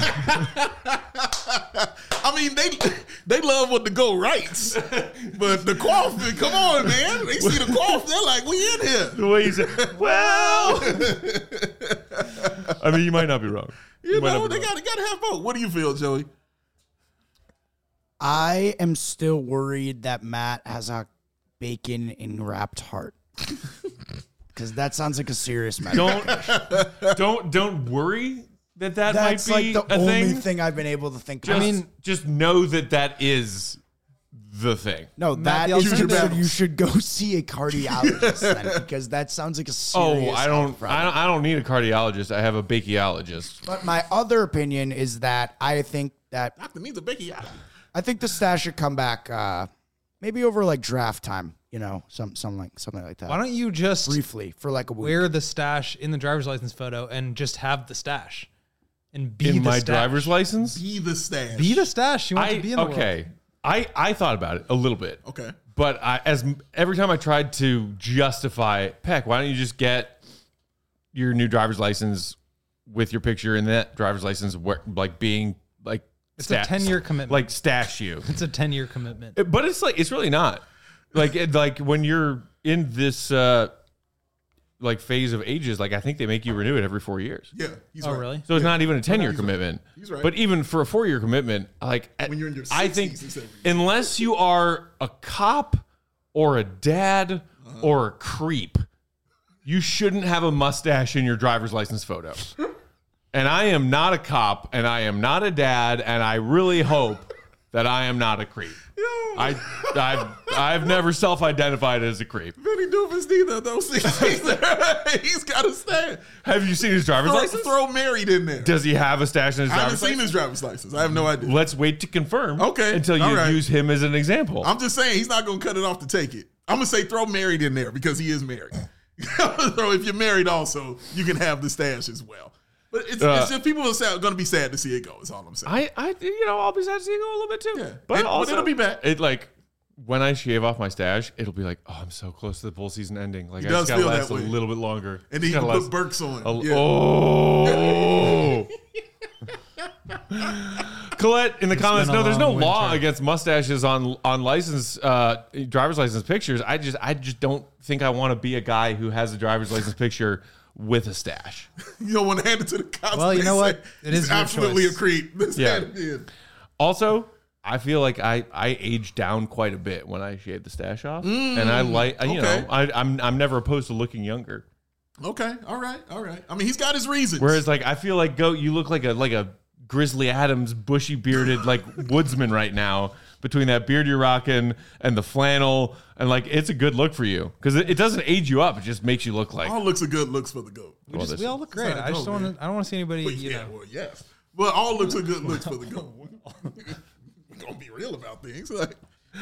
I mean, they they love what the go writes, but the quaff, come on, man. They see the quaff, they're like, we in here.
The way you said, well, I mean, you might not be wrong.
You
might
know,
not be
they
wrong.
got got to have both. What do you feel, Joey?
I am still worried that Matt has a bacon enwrapped heart. Because that sounds like a serious matter.
Don't don't don't worry that that
That's
might be
like the
a
only
thing.
thing. I've been able to think
Just,
of.
I mean-
just know that that is the thing.
no,
Matt,
that
the
is
alternative-
considered you should go see a cardiologist then, because that sounds like a serious
Oh, I don't,
health problem.
I don't. I don't need a cardiologist. I have a bachiologist.
But my other opinion is that I think that
Doctor needs a Becky out.
I think the stash should come back uh, maybe over like draft time, you know, some some like something like that.
why don't you just
briefly for like a week?
wear the stash in the driver's license photo and just have the stash and be
In
the
my
stash.
driver's license,
Be the stash.
Be the stash you want
I
to be in the world.
okay. I I thought about it a little bit.
Okay.
But I, as every time I tried to justify, Peck, why don't you just get your new driver's license with your picture in that driver's license, where, like being like
It's a ten-year commitment.
like stash you.
It's a ten year commitment.
It- But it's like it's really not like it, like when you're in this uh like phase of ages. Like I think they make you renew it every four years.
Yeah. He's
Oh,
right.
really?
So it's not even a ten year
he's right.
commitment.
He's right.
But even for a four year commitment, like
When you're in your
I think
sixties, it's every year.
unless you are a cop or a dad
Uh-huh.
or a creep, you shouldn't have a mustache in your driver's license photo. And I am not a cop and I am not a dad, and I really hope that I am not a creep. I, I've, I've never self-identified as a creep.
Vinny Doofus neither, though. He's got a stash.
Have you seen his driver's
Throw,
license?
throw married in there.
Does he have a stash in his
I haven't
driver's
seen
license?
his driver's license. I have no idea.
Let's wait to confirm.
Okay,
Until you
all right.
use him as an example.
I'm just saying he's not going to cut it off to take it. I'm going to say throw married in there because he is married. So if you're married also, you can have the stash as well. But it's,
Uh,
it's just people are going to be sad to see it go. Is all I'm saying.
I, I, you know, I'll be sad to see it go a little bit too.
Yeah.
But,
And- but
also,
it'll be back.
It like when I shave off my stash, it'll be like, oh, I'm so close to the bull season ending. Like
It
I just
does
gotta
feel that
last a
way.
little bit longer.
and then you
Just
can
gotta
put Burks on.
last a-
Yeah.
Oh. Colette in the comments,
been a
no, there's no
long
law
winter.
against mustaches on on license uh, driver's license pictures. I just I just don't think I want to be a guy who has a driver's license picture with a stash.
You don't want to hand it to the cops.
Well, you
They
know
say
what? It
he's
is your
absolutely
choice.
a creep. Let's
Yeah.
hand it in.
Also, I feel like I, I age down quite a bit when I shave the stash off, and I like you
okay.
know I, I'm I'm never opposed to looking younger.
Okay, all right, all right. I mean, he's got his reasons.
Whereas like I feel like Goat, you look like a like a Grizzly Adams, bushy bearded like woodsman right now. Between that beard you're rocking and the flannel, and like it's a good look for you because it, it doesn't age you up; it just makes you look like.
all looks are good looks for the goat.
We,
Well,
just,
this-
we all look great.
how it
I just
go,
don't
man.
want to. I don't want to see anybody.
Well,
You
yeah,
know,
well, yes. But all looks are good looks for the goat. We're gonna be real about things. Like,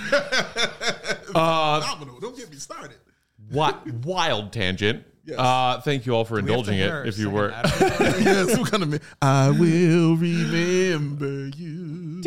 Uh,
phenomenal. Don't get me started.
What wild tangent.
Yes.
Uh, thank you all for
we have to
indulging
hear
it. If you
second
were.
Adam.
Yes, we're gonna. Make, I will remember you.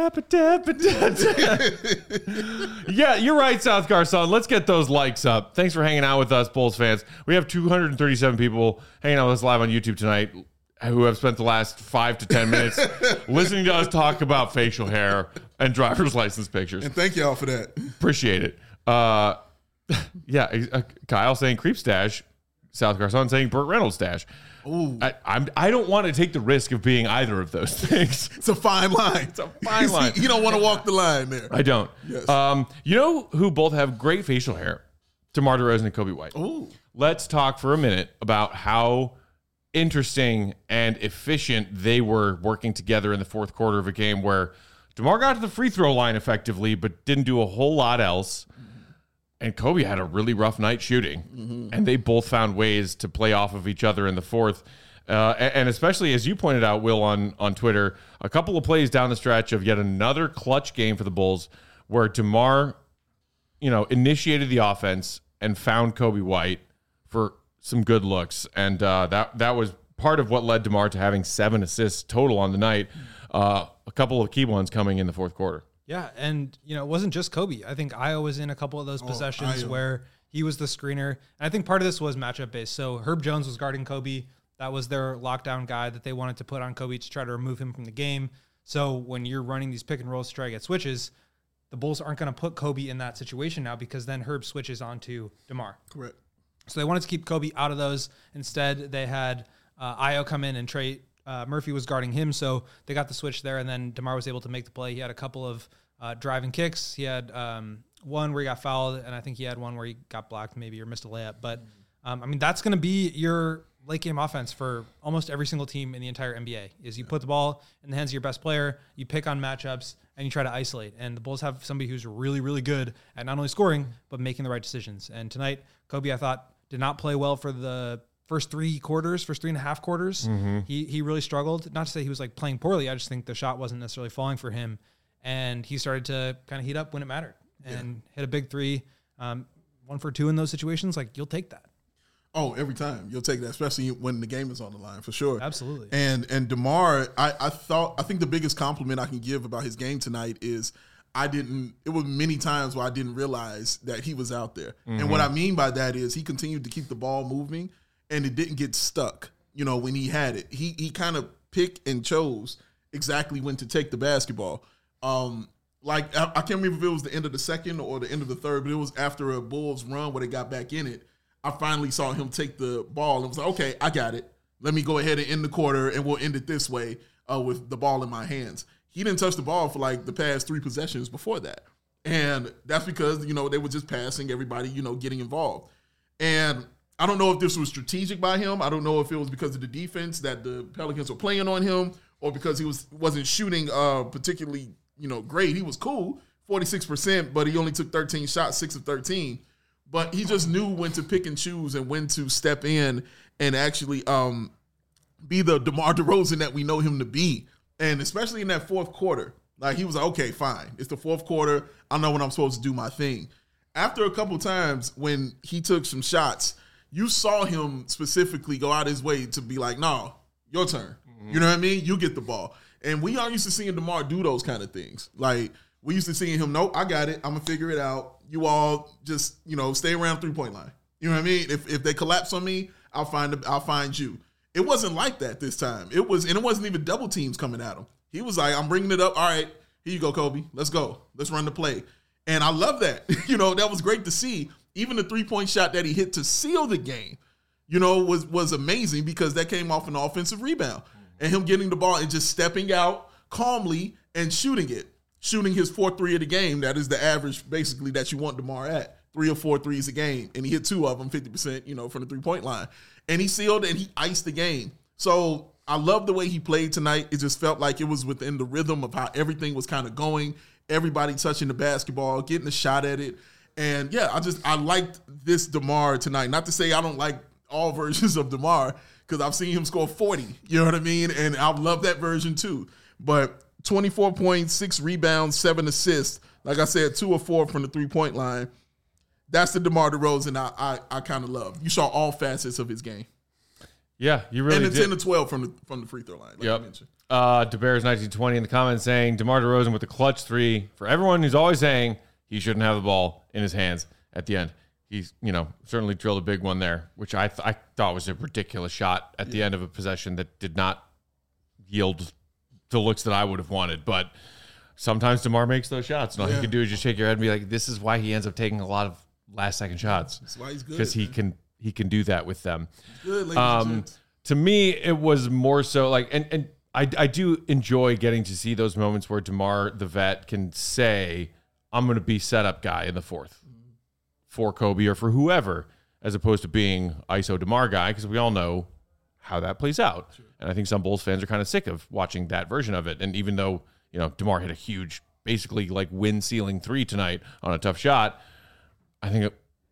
Yeah, you're right, South Carson. Let's get those likes up. Thanks for hanging out with us, Bulls fans. We have two hundred thirty-seven people hanging out with us live on YouTube tonight who have spent the last five to ten minutes listening to us talk about facial hair and driver's license pictures.
And thank y'all for that.
Appreciate it. Uh, yeah, uh, Kyle saying creep stash. South Carson saying Burt Reynolds stash.
Ooh,
I, I'm, I don't want to take the risk of being either of those things.
it's a fine line. It's
a fine line.
You don't want to walk the line there.
I don't.
Yes.
Um, you know who both have great facial hair? DeMar DeRozan and Kobe White.
Ooh,
Let's talk for a minute about how interesting and efficient they were working together in the fourth quarter of a game where DeMar got to the free throw line effectively, but didn't do a whole lot else. And Kobe had a really rough night shooting, mm-hmm. and they both found ways to play off of each other in the fourth. Uh, and, and especially, as you pointed out, Will, on, on Twitter, a couple of plays down the stretch of yet another clutch game for the Bulls where DeMar, you know, initiated the offense and found Kobe White for some good looks. And uh, that, that was part of what led DeMar to having seven assists total on the night. Uh, a couple of key ones coming in the fourth quarter.
Yeah, and you know, it wasn't just Kobe. I think Io was in a couple of those possessions
Io.
where he was the screener. And I think part of this was matchup based. So Herb Jones was guarding Kobe. That was their lockdown guy that they wanted to put on Kobe to try to remove him from the game. So when you're running these pick and rolls to try to get switches, the Bulls aren't going to put Kobe in that situation now because then Herb switches onto DeMar.
correct.
So they wanted to keep Kobe out of those. Instead, they had uh, Io come in and Trey uh, Murphy was guarding him. So they got the switch there, and then DeMar was able to make the play. He had a couple of uh, driving kicks. He had um, one where he got fouled, and I think he had one where he got blocked maybe or missed a layup. But, um, I mean, that's going to be your late game offense for almost every single team in the entire N B A is you put the ball in the hands of your best player, you pick on matchups, and you try to isolate. And the Bulls have somebody who's really, really good at not only scoring, but making the right decisions. And tonight, Kobe, I thought, did not play well for the first three quarters, first three and a half quarters.
Mm-hmm.
He he really struggled. Not to say he was like playing poorly. I just think the shot wasn't necessarily falling for him. And he started to kind of heat up when it mattered and yeah. hit a big three. Um, one for two in those situations, like you'll take that.
Oh, every time you'll take that, especially when the game is on the line, for sure.
Absolutely.
And and DeMar, I, I thought I think the biggest compliment I can give about his game tonight is I didn't. It was many times where I didn't realize that he was out there. Mm-hmm. And what I mean by that is he continued to keep the ball moving, and it didn't get stuck. You know, when he had it, he he kind of picked and chose exactly when to take the basketball. Um, like I, I can't remember if it was the end of the second or the end of the third, but it was after a Bulls run where they got back in it. I finally saw him take the ball and was like, okay, I got it. Let me go ahead and end the quarter, and we'll end it this way uh, with the ball in my hands. He didn't touch the ball for like the past three possessions before that. And that's because, you know, they were just passing, everybody, you know, getting involved. And I don't know if this was strategic by him. I don't know if it was because of the defense that the Pelicans were playing on him or because he was, wasn't shooting uh, particularly you know, great. He was cool, forty-six percent, but he only took thirteen shots, six of thirteen. But he just knew when to pick and choose and when to step in and actually um, be the DeMar DeRozan that we know him to be. And especially in that fourth quarter, like he was like, okay, fine. It's the fourth quarter. I know when I'm supposed to do my thing. After a couple times when he took some shots, you saw him specifically go out his way to be like, no, your turn. Mm-hmm. You know what I mean? You get the ball. And we aren't used to seeing DeMar do those kind of things. Like, we used to seeing him, nope, I got it. I'm going to figure it out. You all just, you know, stay around three-point line. You know what I mean? If if they collapse on me, I'll find I'll find you. It wasn't like that this time. It was, and it wasn't even double teams coming at him. He was like, I'm bringing it up. All right, here you go, Kobe. Let's go. Let's run the play. And I love that. You know, that was great to see. Even the three-point shot that he hit to seal the game, you know, was was amazing because that came off an offensive rebound. And him getting the ball and just stepping out calmly and shooting it. Shooting his fourth three of the game. That is the average, basically, that you want DeMar at. Three or four threes a game. And he hit two of them, fifty percent, you know, from the three-point line. And he sealed and he iced the game. So I love the way he played tonight. It just felt like it was within the rhythm of how everything was kind of going. Everybody touching the basketball, getting a shot at it. And, yeah, I just I liked this DeMar tonight. Not to say I don't like all versions of DeMar, because I've seen him score forty, you know what I mean? And I love that version too. But twenty-four points, six rebounds, seven assists. Like I said, two or four from the three-point line. That's the DeMar DeRozan I I, I kind of love. You saw all facets of his game.
Yeah, you really
and the
did.
ten to twelve from the from the free throw line, like
yep.
you mentioned.
Uh, DeBears nineteen twenty in the comments saying, DeMar DeRozan with the clutch three. For everyone who's always saying he shouldn't have the ball in his hands at the end. He's, you know, certainly drilled a big one there, which I th- I thought was a ridiculous shot at the end of a possession that did not yield the looks that I would have wanted. But sometimes DeMar makes those shots, and all
Yeah.
you can do is just shake your head and be like, this is why he ends up taking a lot of last-second shots.
That's why he's good.
Because he
man.
can he can do that with them.
Good, ladies and
Um,
gents.
to me, it was more so like, and and I I do enjoy getting to see those moments where DeMar, the vet, can say, I'm going to be setup guy in the fourth for Kobe or for whoever, as opposed to being I S O DeMar guy, because we all know how that plays out. Sure. And I think some Bulls fans are kind of sick of watching that version of it. And even though, you know, DeMar hit a huge, basically like win-sealing three tonight on a tough shot, I think it,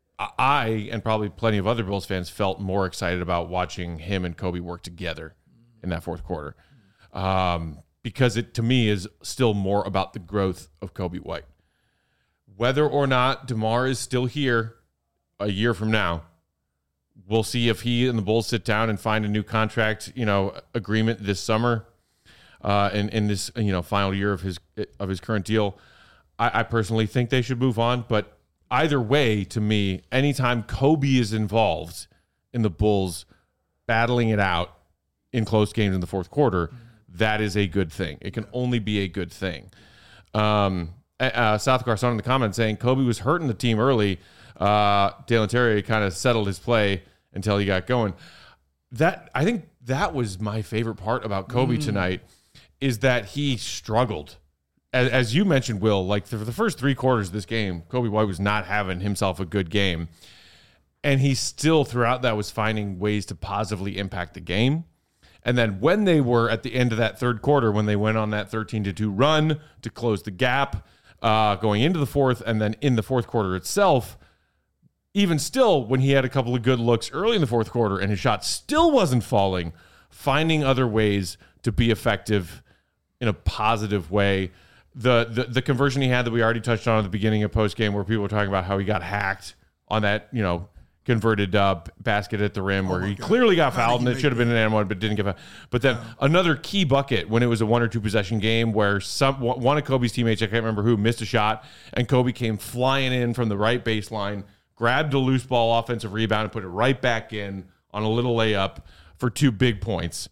I and probably plenty of other Bulls fans felt more excited about watching him and Kobe work together in that fourth quarter. Um, because it, to me, is still more about the growth of Kobe White. Whether or not DeMar is still here a year from now, we'll see if he and the Bulls sit down and find a new contract, you know, agreement this summer, uh, in, in this, you know, final year of his of his current deal. I, I personally think they should move on, but either way, to me, anytime Kobe is involved in the Bulls battling it out in close games in the fourth quarter, that is a good thing. It can only be a good thing. Um, uh, South Carson in the comments saying Kobe was hurting the team early. Uh, Dalen Terry kind of settled his play until he got going. That I think that was my favorite part about Kobe mm. tonight, is that he struggled. As, as you mentioned, Will, like for the first three quarters of this game, Kobe White was not having himself a good game. And he still, throughout that, was finding ways to positively impact the game. And then when they were at the end of that third quarter, when they went on that thirteen to two run to close the gap, uh, going into the fourth, and then in the fourth quarter itself, even still, when he had a couple of good looks early in the fourth quarter and his shot still wasn't falling, finding other ways to be effective in a positive way. The, the the conversion he had that we already touched on at the beginning of postgame, where people were talking about how he got hacked on that, you know, converted uh, basket at the rim, where
oh
he
God.
clearly got
How
fouled,
did
and
he
it should have
make
been an and one, but didn't get fouled. But then
Yeah.
another key bucket when it was a one or two possession game where some one of Kobe's teammates, I can't remember who, missed a shot, and Kobe came flying in from the right baseline, grabbed a loose ball offensive rebound, and put it right back in on a little layup for two big points.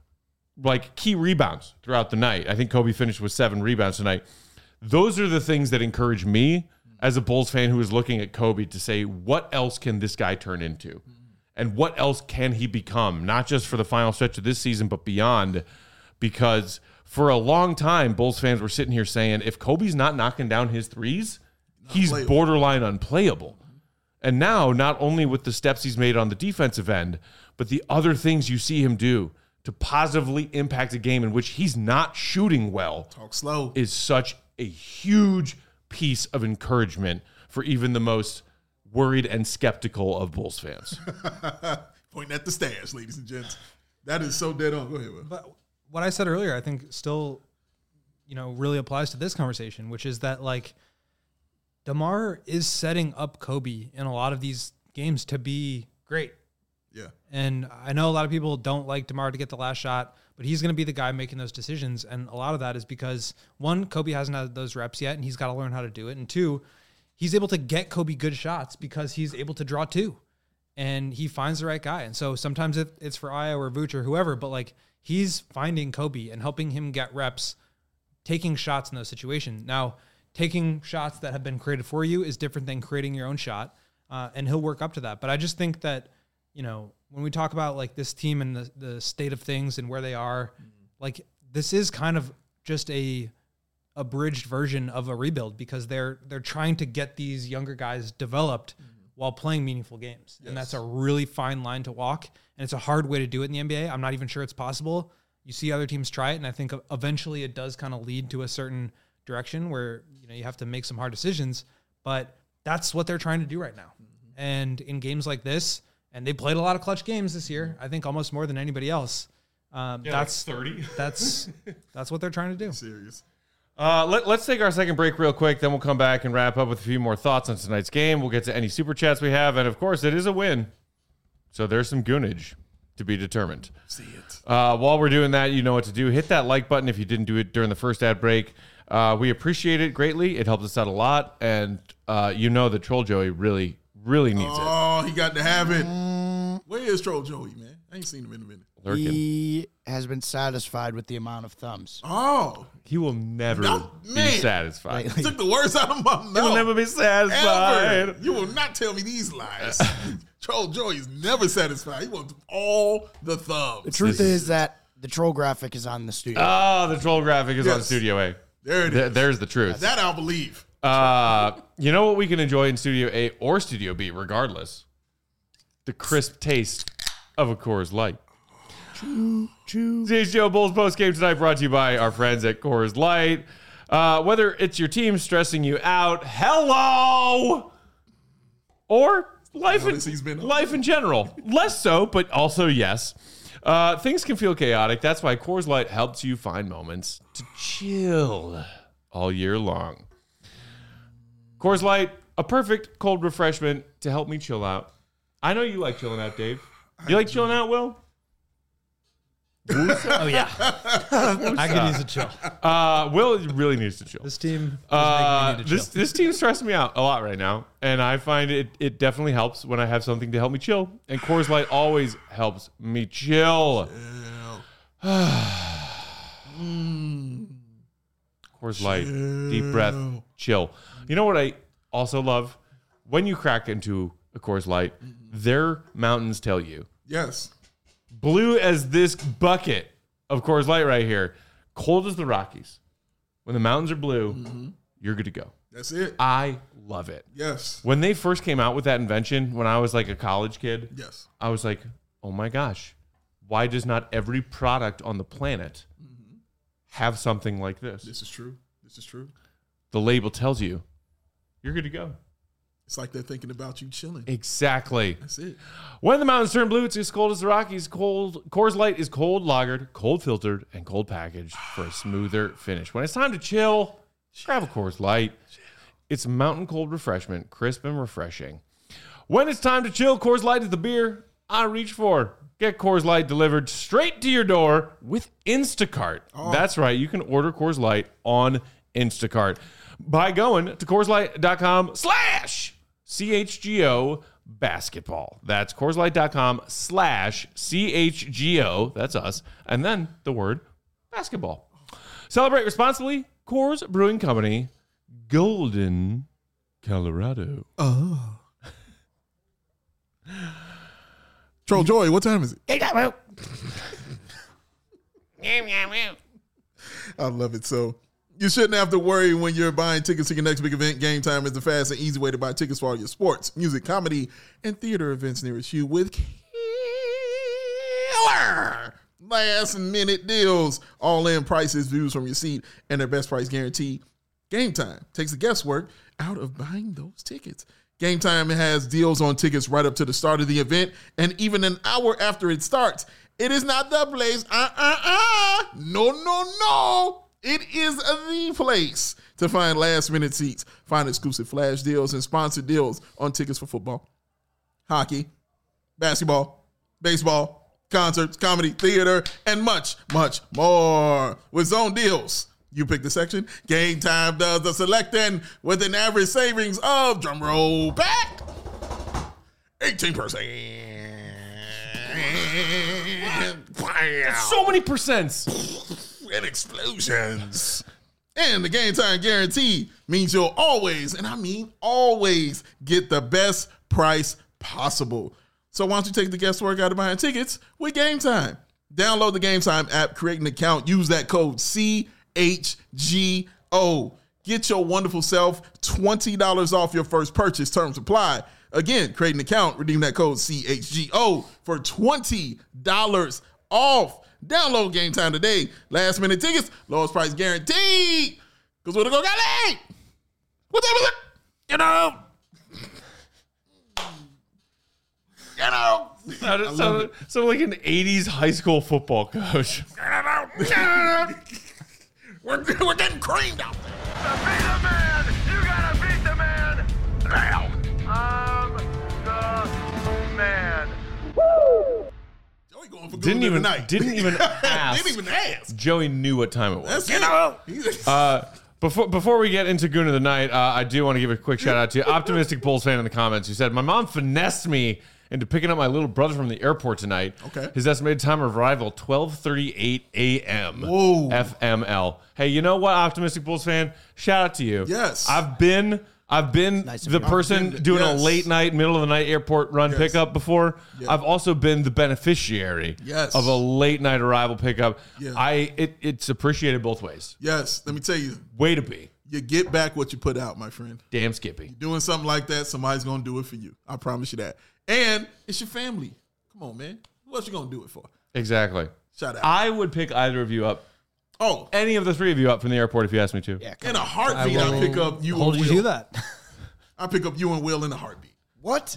Like key rebounds throughout the night. I think Kobe finished with seven rebounds tonight. Those are the things that encourage me as a Bulls fan who is looking at Kobe to say, what else can this guy turn into? And what else can he become? Not just for the final stretch of this season, but beyond. Because for a long time, Bulls fans were sitting here saying, if Kobe's not knocking down his threes, he's
playable.
borderline unplayable. And now, not only with the steps he's made on the defensive end, but the other things you see him do to positively impact a game in which he's not shooting well
Talk slow.
is such a huge piece of encouragement for even the most worried and skeptical of Bulls fans.
Pointing at the stairs, ladies and gents. That is so dead on. Go ahead, Will.
But what I said earlier, I think still, you know, really applies to this conversation, which is that like DeMar is setting up Kobe in a lot of these games to be great.
Yeah.
And I know a lot of people don't like DeMar to get the last shot, but he's going to be the guy making those decisions. And a lot of that is because, one, Kobe hasn't had those reps yet, and he's got to learn how to do it. And two, he's able to get Kobe good shots because he's able to draw two. And he finds the right guy. And so sometimes it, it's for Ayo or Vooch or whoever, but like he's finding Kobe and helping him get reps, taking shots in those situations. Now, taking shots that have been created for you is different than creating your own shot. Uh, and he'll work up to that. But I just think that, you know, when we talk about like this team and the, the state of things and where they are, mm-hmm. like this is kind of just a abridged version of a rebuild because they're they're trying to get these younger guys developed mm-hmm. while playing meaningful games. Yes. And that's a really fine line to walk. And it's a hard way to do it in the N B A. I'm not even sure it's possible. You see other teams try it, and I think eventually it does kind of lead to a certain direction where, you know, you have to make some hard decisions. But that's what they're trying to do right now. Mm-hmm. And in games like this, and they played a lot of clutch games this year, I think almost more than anybody else. Um,
yeah,
that's
like thirty.
that's that's what they're trying to do.
Serious.
Uh, let, let's take our second break real quick. Then we'll come back and wrap up with a few more thoughts on tonight's game. We'll get to any super chats we have. And, of course, it is a win. So there's some goonage to be determined.
See it.
Uh, while we're doing that, you know what to do. Hit that like button if you didn't do it during the first ad break. Uh, we appreciate it greatly. It helps us out a lot. And uh, you know that Troll Joey really, really needs it.
Oh, he got to have it. Where is Troll Joey, man? I ain't seen him in a minute.
Lurking.
He has been satisfied with the amount of thumbs.
Oh.
He will never
No,
be
man.
satisfied.
He took the words out of my mouth.
He will never be satisfied.
Ever. You will not tell me these lies. Troll Joey is never satisfied. He wants all the thumbs.
The truth is that the troll graphic is on the studio.
Oh, the troll graphic is
Yes.
on Studio A.
There it
Th-
is.
There's the truth.
That I'll believe.
Uh, you know what we can enjoy in Studio A or Studio B, regardless? The crisp taste of a Coors Light.
Choo, choo.
C H G O Bulls post game tonight brought to you by our friends at Coors Light. Uh, whether it's your team stressing you out, hello, or life in,
Notice he's been on.
life in general, less so, but also yes. Uh, things can feel chaotic. That's why Coors Light helps you find moments to chill all year long. Coors Light, a perfect cold refreshment to help me chill out. I know you like chilling out, Dave. You like chilling out, Will?
Oh yeah, I could use a chill.
Uh, Will really needs to chill.
This team is
Uh,
making me need to
this
chill.
this team's stressing me out a lot right now, and I find it it definitely helps when I have something to help me chill. And Coors Light always helps me chill. Coors Light, deep breath, chill. You know what I also love? When you crack into a Coors Light, their mountains tell you.
Yes.
Blue as this bucket of Coors Light right here. Cold as the Rockies. When the mountains are blue, mm-hmm. you're good to go.
That's it.
I love it.
Yes.
When they first came out with that invention, when I was like a college kid,
Yes.
I was like, oh my gosh, why does not every product on the planet mm-hmm. have something like this?
This is true. This is true.
The label tells you you're good to go.
It's like they're thinking about you chilling.
Exactly.
That's it.
When the mountains turn blue, it's as cold as the Rockies. Cold Coors Light is cold lagered, cold filtered, and cold packaged for a smoother finish. When it's time to chill, grab a Coors Light. It's mountain cold refreshment, crisp and refreshing. When it's time to chill, Coors Light is the beer I reach for. Get Coors Light delivered straight to your door with Instacart. Oh. That's right. You can order Coors Light on Instacart by going to CoorsLight.com slash CHGO basketball. That's CoorsLight.com slash CHGO. That's us. And then the word basketball. Celebrate responsibly. Coors Brewing Company, Golden, Colorado.
Oh. Troll Joy, what time is it? I love it. So you shouldn't have to worry when you're buying tickets to your next big event. Game Time is the fast and easy way to buy tickets for all your sports, music, comedy, and theater events nearest you with killer last minute deals. All in prices, views from your seat, and their best price guarantee. Game Time takes the guesswork out of buying those tickets. Game Time has deals on tickets right up to the start of the event, and even an hour after it starts. It is not the place. Uh-uh-uh. No, no, no. It is the place to find last-minute seats, find exclusive flash deals and sponsored deals on tickets for football, hockey, basketball, baseball, concerts, comedy, theater, and much, much more. With Zone Deals, you pick the section. Game Time does the selecting with an average savings of, drum roll back, eighteen percent.
So many percents.
And explosions. And the Game Time guarantee means you'll always, and I mean always, get the best price possible. So why don't you take the guesswork out of buying tickets with Game Time? Download the Game Time app, create an account, use that code C H G O. Get your wonderful self twenty dollars off your first purchase. Terms apply. Again, create an account, redeem that code C H G O for twenty dollars off. Download Game Time today. Last minute tickets, lowest price guaranteed. Because we're going to go late. What time is it? You know. You know.
Sounded, sounded, sounded like an eighties high school football coach.
we're, we're getting creamed out there.
To be the man, you gotta beat the man now. I'm the man. Woo!
Joey going for
Didn't
good
even
tonight.
didn't even ask.
Didn't even ask.
Joey knew what time it was.
That's it. He's-
Uh, before before we get into Goon of the Night, uh, I do want to give a quick shout out to Optimistic Bulls fan in the comments who said, "My mom finessed me into picking up my little brother from the airport tonight.
Okay.
His estimated time of arrival, twelve thirty-eight a.m.
Whoa.
F M L. Hey, you know what, Optimistic Bulls fan? Shout out to you.
Yes.
I've been I've been
Nice of
the
you.
person
I've been-
doing
yes.
a late night, middle of the night airport run
Yes.
pickup before.
Yeah.
I've also been the beneficiary
Yes.
of a late night arrival pickup.
Yeah.
I it, it's appreciated both ways.
Yes, let me tell you,
Way to be.
you get back what you put out, my friend.
Damn Skippy.
Doing something like that, somebody's going to do it for you. I promise you that. And it's your family. Come on, man. Who else you going to do it for?
Exactly.
Shout out.
I would pick either of you up,
oh,
any of the three of you up from the airport if you asked me to.
Yeah,
in a
I
heartbeat,
will
I'll pick up you
hold
and
you
Will.
to that.
I'll pick up you and Will in a heartbeat.
What?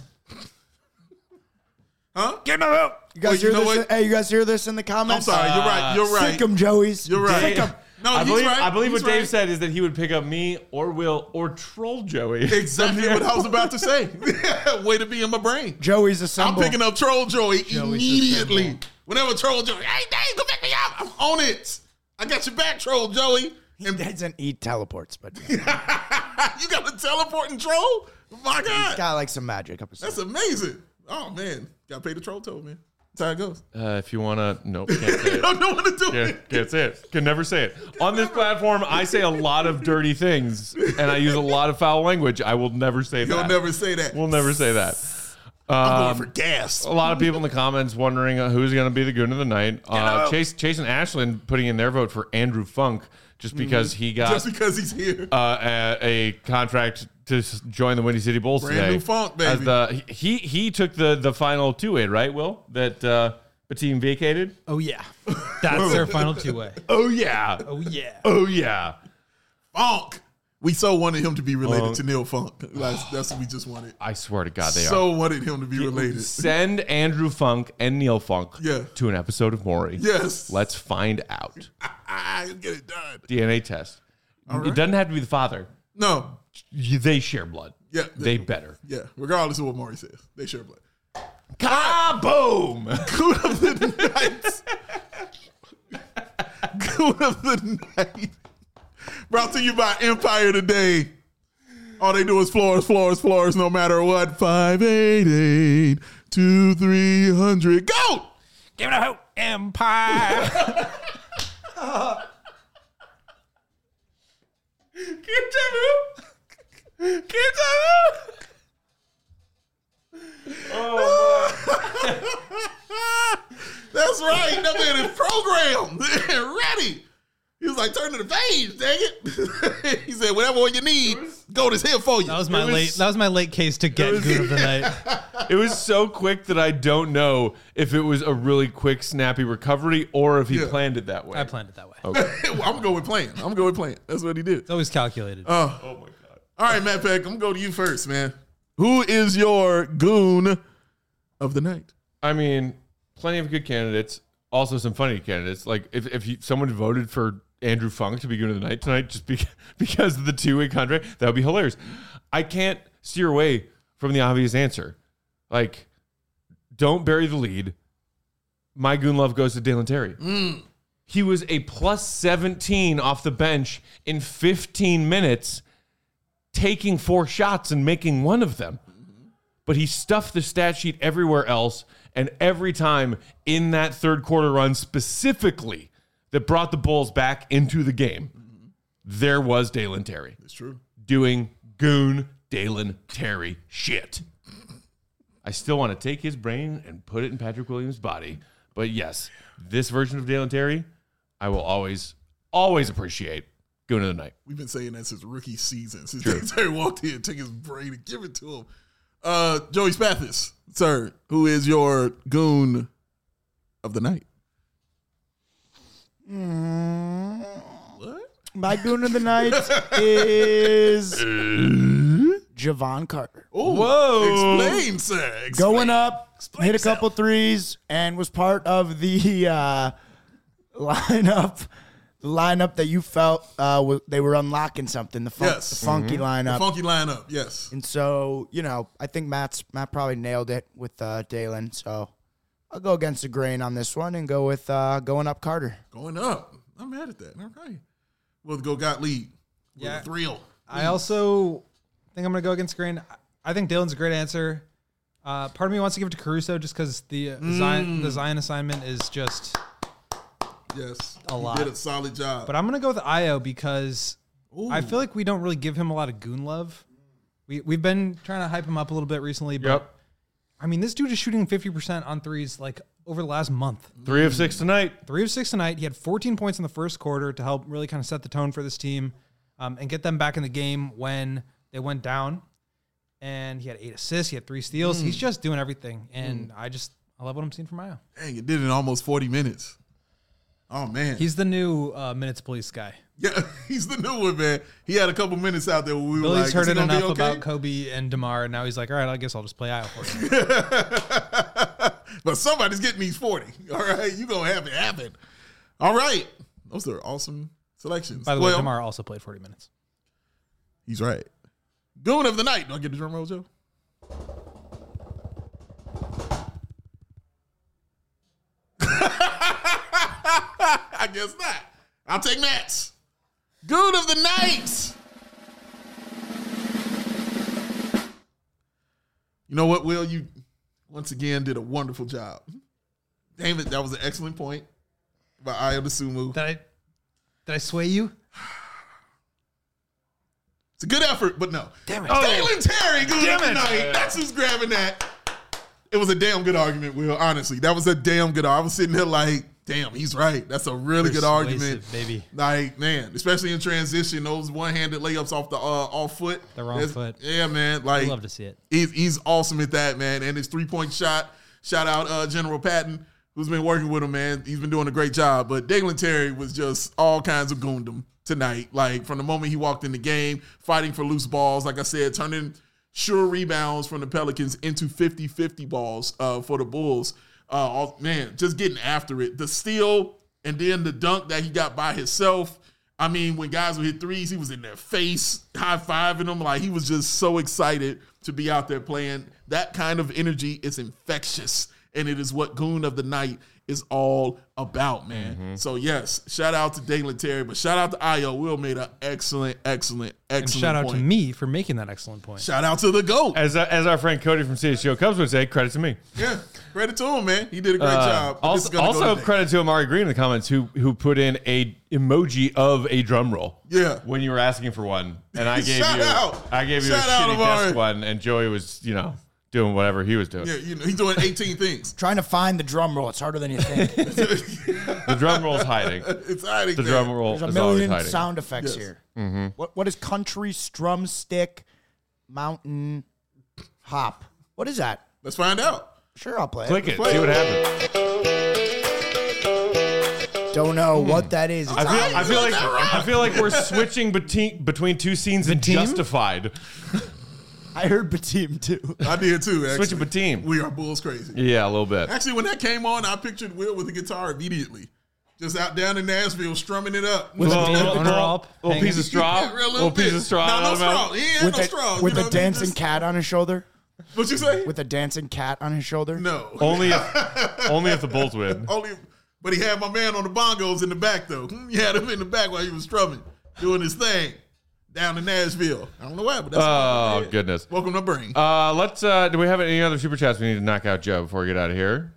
Huh?
Get him out. You guys
Well, you
hear
know
this?
what?
Hey, you guys hear this in the
I'm
comments?
sorry. You're right. You're right.
Sick 'em, Joey's.
You're right.
Sick 'em.
No,
I
he's
believe,
right.
I believe
He's
what Dave
right.
said is that he would pick up me or Will or Troll Joey.
Exactly what I was about to say. Way to be in my brain.
Joey's a
I'm
symbol.
picking up Troll Joey
Joey's a
immediately.
symbol.
Whenever Troll Joey, hey, Dave, go pick me up. I'm on it. I got your back, Troll Joey.
He doesn't eat teleports, but he's
You got a teleporting troll? My God.
got like some magic up his
That's
sleeve.
amazing. Oh, man. Got to pay the troll toll, man. That's how it goes.
Uh, if you want to, nope, can't say
I
it.
don't know what to do.
Can't, can't say it. Can never say it. On this platform, I say a lot of dirty things, and I use a lot of foul language. I will never say
You'll
that.
never say that.
We'll never say that.
I'm going
Um,
for gas.
a lot of people in the comments wondering uh, who's going to be the Goon of the Night. Uh, Chase, Chase and Ashland putting in their vote for Andrew Funk just because he got
Just because he's here.
uh, a, a contract to s- join the Windy City Bulls
Brand
today.
new Funk,
As
baby.
the, he he took the the final two way, right? Will that uh, the team vacated?
Oh yeah, that's their final two way.
Oh yeah,
Oh yeah.
oh yeah.
Funk. We so wanted him to be related
Funk.
to Neil Funk. That's, that's what we just wanted.
I swear to God, they
So wanted him to be
are.
related.
Send Andrew Funk and Neil Funk
Yeah.
to an episode of Maury.
Yes.
Let's find out.
Ah, get it done.
D N A test.
All
It
right.
doesn't have to be the father.
No.
You- They share blood.
Yeah.
They better.
Yeah. Regardless of what Maury says, they share blood.
Kaboom!
Goon of the night. Goon of the night. Brought to you by Empire Today. All they do is floors, floors, floors, no matter what. five eight eight, two three hundred. Go!
Give it a hope, Empire.
That's right. That man is programmed and ready. He was like, turn to the page, dang it. He said, whatever one you need, go this here for you.
That was my
It was-
late. That was my late case to get
was-
Goon of the Night.
It was so quick that I don't know if it was a really quick, snappy recovery or if he
Yeah.
planned it that way.
I planned it that way.
Okay.
I'm going to go with playing. I'm going to go with playing. That's what he did.
It's always calculated.
Oh,
Oh my god.
all right, Matt Peck, I'm going to go to you first, man. Who is your goon of the night?
I mean, plenty of good candidates. Also, some funny candidates. Like if if you, someone voted for Andrew Funk to be goon of the night tonight, just be, because of the two-way contract, that would be hilarious. I can't steer away from the obvious answer. Like, don't bury the lead. My goon love goes to Dalen Terry.
Mm.
He was a plus seventeen off the bench in fifteen minutes, taking four shots and making one of them. But he stuffed the stat sheet everywhere else, and every time in that third quarter run specifically that brought the Bulls back into the game, there was Dalen Terry.
It's true.
Doing goon Dalen Terry shit. I still want to take his brain and put it in Patrick Williams' body. But yes, this version of Dalen Terry, I will always, always appreciate. Goon of the night.
We've been saying that since rookie season. Since Dalen Terry walked in, took his brain and give it to him. Uh, Joey Spathis, sir, who is your goon of the night? What?
My goon of the night is Javon Carter.
Oh,
Whoa.
explain, sir. Explain.
Going up,
Explain
hit a
yourself.
couple threes, and was part of the uh, lineup. The lineup that you felt uh, w- they were unlocking something. The, fun-
Yes.
the funky lineup.
The funky lineup, yes.
And so, you know, I think Matt's Matt probably nailed it with uh, Dalen. So I'll go against the grain on this one and go with uh, going up Carter.
Going up. I'm mad at that. All right. We'll go Gottlieb. With
Yeah.
a thrill.
I also think I'm going to go against Grain. I think Dalen's a great answer. Uh, part of me wants to give it to Caruso just because the, uh, Zion, the Zion assignment is just
Yes.
A
he
lot.
did a solid job.
But I'm going to go with Io because
Ooh.
I feel like we don't really give him a lot of goon love. We, we've been trying to hype him up a little bit recently. But,
Yep.
I mean, this dude is shooting fifty percent on threes like over the last month.
Three of six tonight.
Three of six tonight. He had fourteen points in the first quarter to help really kind of set the tone for this team um, and get them back in the game when they went down. And he had eight assists. He had three steals. He's just doing everything. And I just, I love what I'm seeing from Io.
Dang, it did it in almost forty minutes. Oh, man.
He's the new uh, minutes police guy.
yeah, he's the new one, man. He had a couple minutes out there where we were
Billy's
like, is
heard
he
it
gonna be
enough
okay?
about Kobe and DeMar, and now he's like, all right, I guess I'll just play Io for you.
But somebody's getting these forty. All right, you going to have it happen. All right. Those are awesome selections.
By the
well,
way, DeMar also played forty minutes.
He's right. Goon of the night. Do I get the drum roll, Joe? I guess not. I'll take Matt's. Goon of the night. You know what, Will? You once again did a wonderful job. Damn it, that was an excellent point by Io DeSumo.
Did I, did I sway you?
It's a good effort, but no.
Damn it.
Dalen Terry, Goon
Damn
of the
it.
night. That's who's grabbing that. It was a damn good argument, Will. Honestly, that was a damn good. I was sitting there like, damn, he's right. That's a really good argument,
Persuasive, baby.
Like, man, especially in transition, those one-handed layups off the uh, off foot,
The wrong
That's-
foot.
Yeah, man.
I
Like,
love to see it.
he's he's awesome at that, man. And his three-point shot. Shout out uh, General Patton, who's been working with him, man. He's been doing a great job. But Dalen Terry was just all kinds of goondom tonight. Like, from the moment he walked in the game, fighting for loose balls, like I said, turning sure rebounds from the Pelicans into fifty-fifty balls uh, for the Bulls. Uh, all, man, just getting after it. The steal and then the dunk that he got by himself. I mean, when guys would hit threes, he was in their face, high-fiving them. Like, he was just so excited to be out there playing. That kind of energy is infectious, and it is what Goon of the Night is all about, man.
Mm-hmm.
So, yes, shout out to Dalen Terry, but shout out to Io. Will made an excellent, excellent, excellent
And shout out
point.
to me for making that excellent point.
Shout out to the GOAT.
As uh, as our friend Cody from C H G O Cubs would say, credit to me.
Yeah, credit to him, man. He did a great
Uh,
job. But this is
Also,
gonna go
also
today.
credit to Amari Green in the comments who who put in a emoji of a drum roll.
Yeah.
When you were asking for one, and I gave
Shout
you
out.
I gave you
Shout
a
out,
shitty
Amari.
desk one, and Joey was you know doing whatever he was doing.
Yeah, you know, he's doing eighteen things.
Trying to find the drum roll. It's harder than you think.
The drum roll's hiding.
It's hiding
The
there.
drum roll
There's a
is always
million
hiding.
sound effects
Yes.
here. What what is country strum stick mountain hop? What is that?
Let's find out.
Sure, I'll play
Click
it.
it.
Play
See
it.
what happens.
Don't know what that is. It's
I feel, I feel like
Right.
I feel like we're switching between between two scenes in
team?
Justified.
I heard Batim too.
I did too. Actually.
Switching between.
We are Bulls crazy.
Yeah, a little bit.
Actually, when that came on, I pictured Will with a guitar immediately. Just out down in Nashville, strumming it up.
With
Little,
a
little,
owner
little,
up,
little
hanging.
piece of straw.
Yeah, real
little piece
bit.
of straw.
No,
out
no
of the mouth.
straw. He ain't
With
no
a,
straw.
with
you
a
know,
dancing
just-
cat on his shoulder.
What you say?
With a dancing cat on his shoulder.
No.
Only if, only if the Bulls win.
Only, but he had my man on the bongos in the back though. He had him in the back while he was strumming, doing his thing down in Nashville. I don't know why, but that's
Oh
what
goodness.
welcome to Bring.
Uh, let's. Uh, do we have any other super chats we need to knock out, Joe, before we get out of here?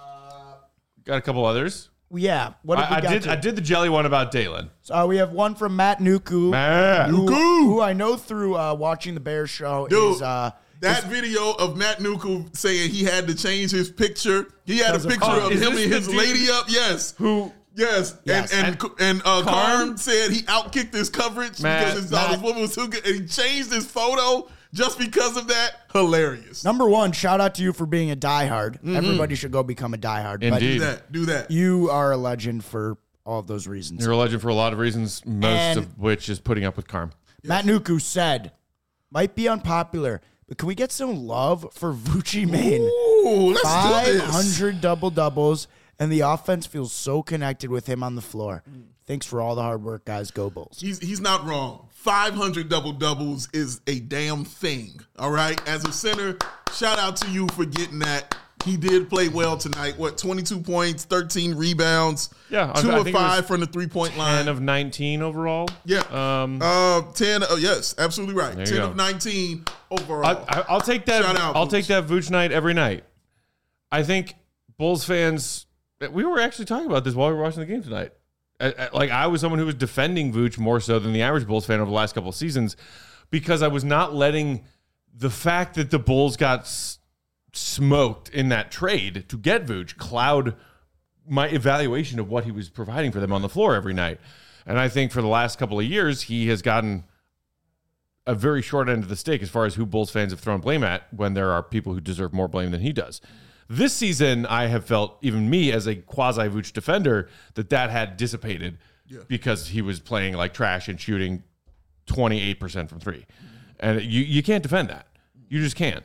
Got a couple others.
Yeah. What have we
I, I
got
did.
to?
I did the jelly one about Dalen.
So, uh, we have one from Matt Nuku,
Man.
who, who I know through uh, watching the Bears show.
Dude,
is, uh,
that video of Matt Nuku saying he had to change his picture. He had a
Because of-
picture
Oh,
of
is
him
this
and
the
his
dude
lady up. Yes.
Who?
Yes.
Yes.
And and and uh,
Karn?
Karn said he outkicked his coverage
Matt,
because his, uh, his
Matt.
woman was too good, and he changed his photo just because of that. Hilarious.
number one, shout out to you for being a diehard. Everybody should go become a diehard.
Indeed.
Do that. Do that.
But you are a legend for all of those reasons.
You're a legend for a lot of reasons, most
And-
of which is putting up with Carm.
Matt Nuku said, might be unpopular, but can we get some love for Vucci Mane?
Ooh, let's do
five
this.
hundred double doubles, and the offense feels so connected with him on the floor. Thanks for all the hard work, guys. Go Bulls.
He's he's not wrong. five hundred double doubles is a damn thing. All right. As a center, shout out to you for getting that. He did play well tonight. What, twenty-two points, thirteen rebounds,
Yeah, I-
two
I
of
think it was
five from the three point line.
ten of nineteen overall.
Yeah.
Um,
uh, ten. Oh, yes, absolutely right.
There you
ten
go.
of nineteen overall.
I, I, I'll take that.
Shout out,
I'll
Vooch.
take that Vooch night every night. I think Bulls fans. We were actually talking about this while we were watching the game tonight. I, I, like I was someone who was defending Vooch more so than the average Bulls fan over the last couple of seasons because I was not letting the fact that the Bulls got s- smoked in that trade to get Vooch cloud my evaluation of what he was providing for them on the floor every night. And I think for the last couple of years, he has gotten a very short end of the stick as far as who Bulls fans have thrown blame at when there are people who deserve more blame than he does. This season, I have felt, even me as a quasi-Vooch defender, that that had dissipated
Yeah.
because he was playing like trash and shooting twenty-eight percent from three. And you, you can't defend that. You just can't.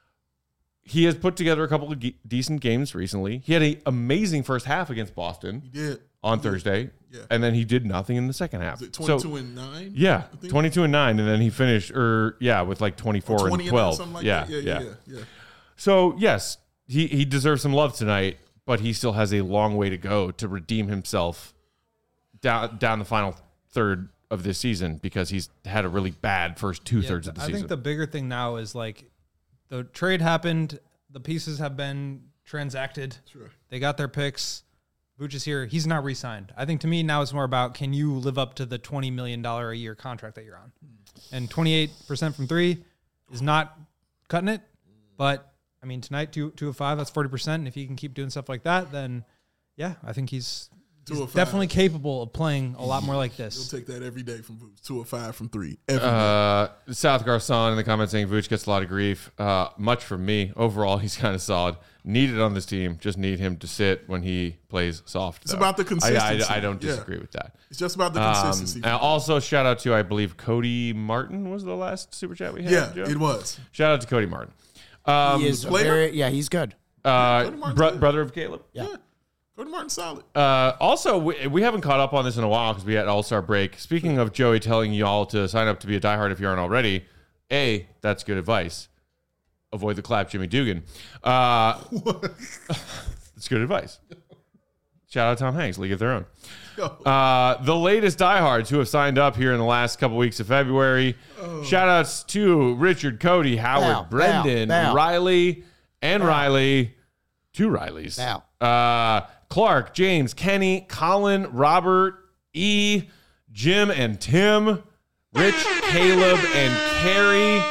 He has put together a couple of ge- decent games recently. He had an amazing first half against Boston
he did.
on Thursday,
Yeah.
and then he did nothing in the second half.
Was it
So-
twenty-two and nine?
yeah,
I think?
twenty-two and nine, and then he finished, or yeah, with like twenty-four
twenty
and
and
twelve.
something like
yeah,
that. Yeah,
yeah,
yeah, yeah, yeah.
So yes, he he deserves some love tonight, but he still has a long way to go to redeem himself down down the final third of this season because he's had a really bad first two
Yeah,
thirds of the
I
season.
think the bigger thing now is like the trade happened, the pieces have been transacted.
Sure.
They got their picks. Vooch is here. He's not re-signed. I think to me now it's more about can you live up to the twenty million dollars a year contract that you're on? And twenty-eight percent from three is not cutting it. But, I mean, tonight, two, two of five, that's forty percent. And if he can keep doing stuff like that, then, yeah, I think he's,
Two
he's
of five.
definitely capable of playing a lot more like
You'll
this.
take that every day from Vooch. Two or five from three. Every day.
Uh, South Garcon in the comments saying Vooch gets a lot of grief. Uh, much from me. Overall, he's kind of solid. Needed on this team. Just need him to sit when he plays soft.
It's
though.
about the
I-
consistency.
I, I don't
Yeah.
disagree with that.
It's just about the
Um,
consistency.
and also, shout out to, I believe, Cody Martin was the last super chat we had.
yeah,
Joe?
it was.
Shout out to Cody Martin. Um,
he is
player?
very, yeah, he's good.
uh,
Cody Martin's
bro-
good.
brother of Caleb.
Yeah.
Yeah. Cody Martin solid.
Uh, also, we, we haven't caught up on this in a while because we had All-Star break. Speaking of Joey telling y'all to sign up to be a diehard if you aren't already, A, that's good advice. Avoid the clap, Jimmy Dugan. Uh, that's good advice. Shout out Tom Hanks, League of Their Own. Uh, the latest diehards who have signed up here in the last couple weeks of February. Shout outs to Richard, Cody, Howard,
Bow,
Brendan,
bow, bow.
Riley, and Riley. Two Rileys.
Bow.
Uh, Clark, James, Kenny, Colin, Robert, E, Jim, and Tim, Rich, Caleb, and Carrie.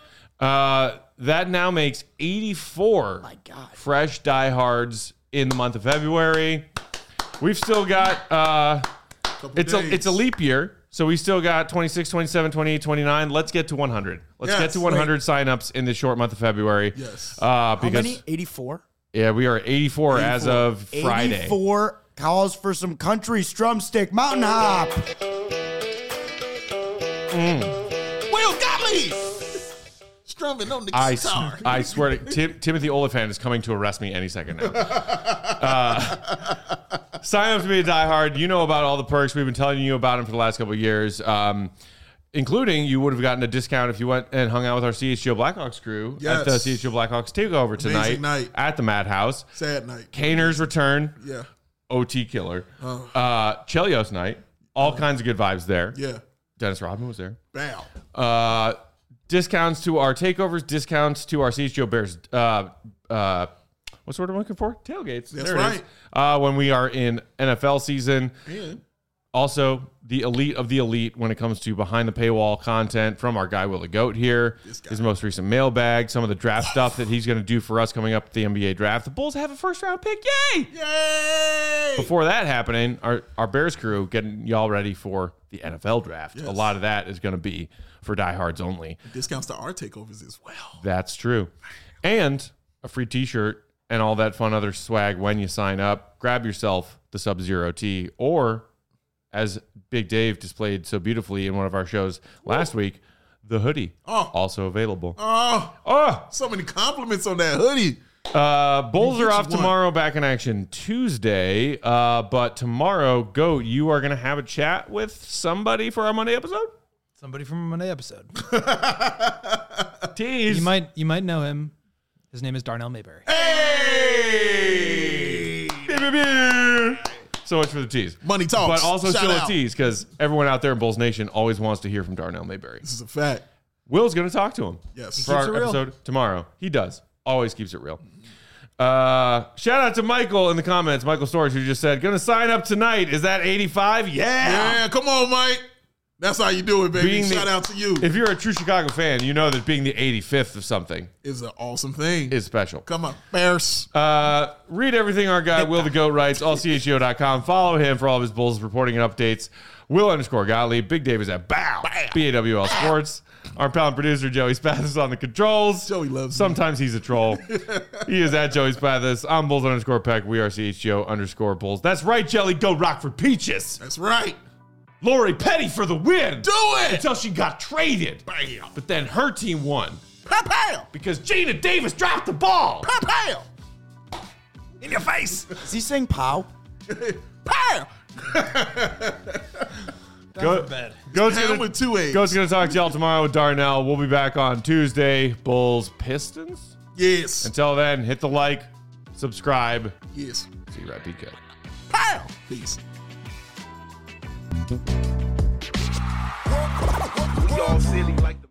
Uh, that now makes eighty-four
My God.
fresh diehards in the month of February. We've still got uh,
Couple
it's a
days.
it's a leap year, So we still got twenty-six, twenty-seven, twenty-eight, twenty-nine. Let's get to one hundred. Let's
Yes,
get to one hundred signups in this short month of February.
Yes.
Uh,
How
because
many? eighty-four?
yeah, we are at eighty-four, as of Friday.
eighty-four calls for some country strumstick mountain hop.
Will Gottlieb strumming on the
I,
guitar.
s- I swear to Tim, Timothy Oliphant is coming to arrest me any second now. Uh, sign up to be a diehard. You know about all the perks. We've been telling you about them for the last couple of years, um, including you would have gotten a discount if you went and hung out with our C H G O Blackhawks crew
Yes.
at the C H G O Blackhawks takeover tonight
Amazing night.
at the Madhouse.
Sad night.
Kaner's return,
Yeah.
O T killer. Uh, Chelios night, all kinds of good vibes there.
Yeah.
Dennis Rodman was there.
Bam.
Uh, discounts to our takeovers, discounts to our C H G O Bears. Uh, uh, what's the word I'm looking for? Tailgates.
That's
There it is.
right.
Uh, when we are in N F L season.
And
Also, the elite of the elite when it comes to behind the paywall content from our guy Will the Goat here.
guy.
His most recent mailbag, some of the draft stuff that he's going to do for us coming up at the N B A draft. The Bulls have a first round pick. Yay!
yay!
Before that happening, our, our Bears crew getting y'all ready for the N F L draft.
Yes.
A lot of that is going to be for diehards only.
Discounts to our takeovers as well.
That's true. And a free t-shirt and all that fun other swag when you sign up. Grab yourself the Sub-Zero tee, or as Big Dave displayed so beautifully in one of our shows last week, the hoodie.
Oh.
Also available.
Oh,
Oh,
so many compliments on that hoodie.
uh, Bulls
You
are
get
off
you one.
tomorrow, back in action Tuesday. Uh, but tomorrow, Goat, you are going to have a chat with somebody for our Monday episode?
Somebody from a Monday episode.
Tease.
You might you might know him. His name is Darnell Mayberry.
Hey!
So much for the tease.
Money talks.
But also
Shout
still
out.
a tease because everyone out there in Bulls Nation always wants to hear from Darnell Mayberry.
This is a fact.
Will's going to talk to him
Yes.
for our
Keeps it real.
episode tomorrow. He does. Always keeps it real. Uh, shout out to Michael in the comments, Michael Storage, who just said, going to sign up tonight. Is that eighty-five? Yeah.
Yeah, come on, Mike. That's how you do it, baby.
Being the-
Shout out to you.
If you're a true Chicago fan, you know that being the eighty-fifth of something
It's an awesome thing.
is special.
Come on, Bears.
Uh, read everything our guy Will the Goat writes, all C H G O dot com. Follow him for all of his Bulls reporting and updates. Will underscore Gottlieb. Big Dave is at Bow. B A W L Sports. Our pal and producer, Joey Spathis, on the controls.
Joey loves me.
Sometimes he's a troll. He is at Joey Spathis. I'm Bulls underscore Peck. We are C H G O underscore Bulls. That's right, Jelly. Go Rockford Peaches.
That's right.
Lori Petty for the win.
Do it.
Until she got traded.
Bam.
But then her team won
Pow,
because Gina Davis dropped the ball.
pow, pow,
In your face.
Is he saying pow?
pow.
Go,
bed.
Goat's
Ham
gonna,
with two A's.
Goat's gonna talk to y'all tomorrow with Darnell. We'll be back on Tuesday. Bulls Pistons.
Yes.
Until then, hit the like, subscribe.
Yes.
See you right, P K.
Pow. Peace.
We all silly like the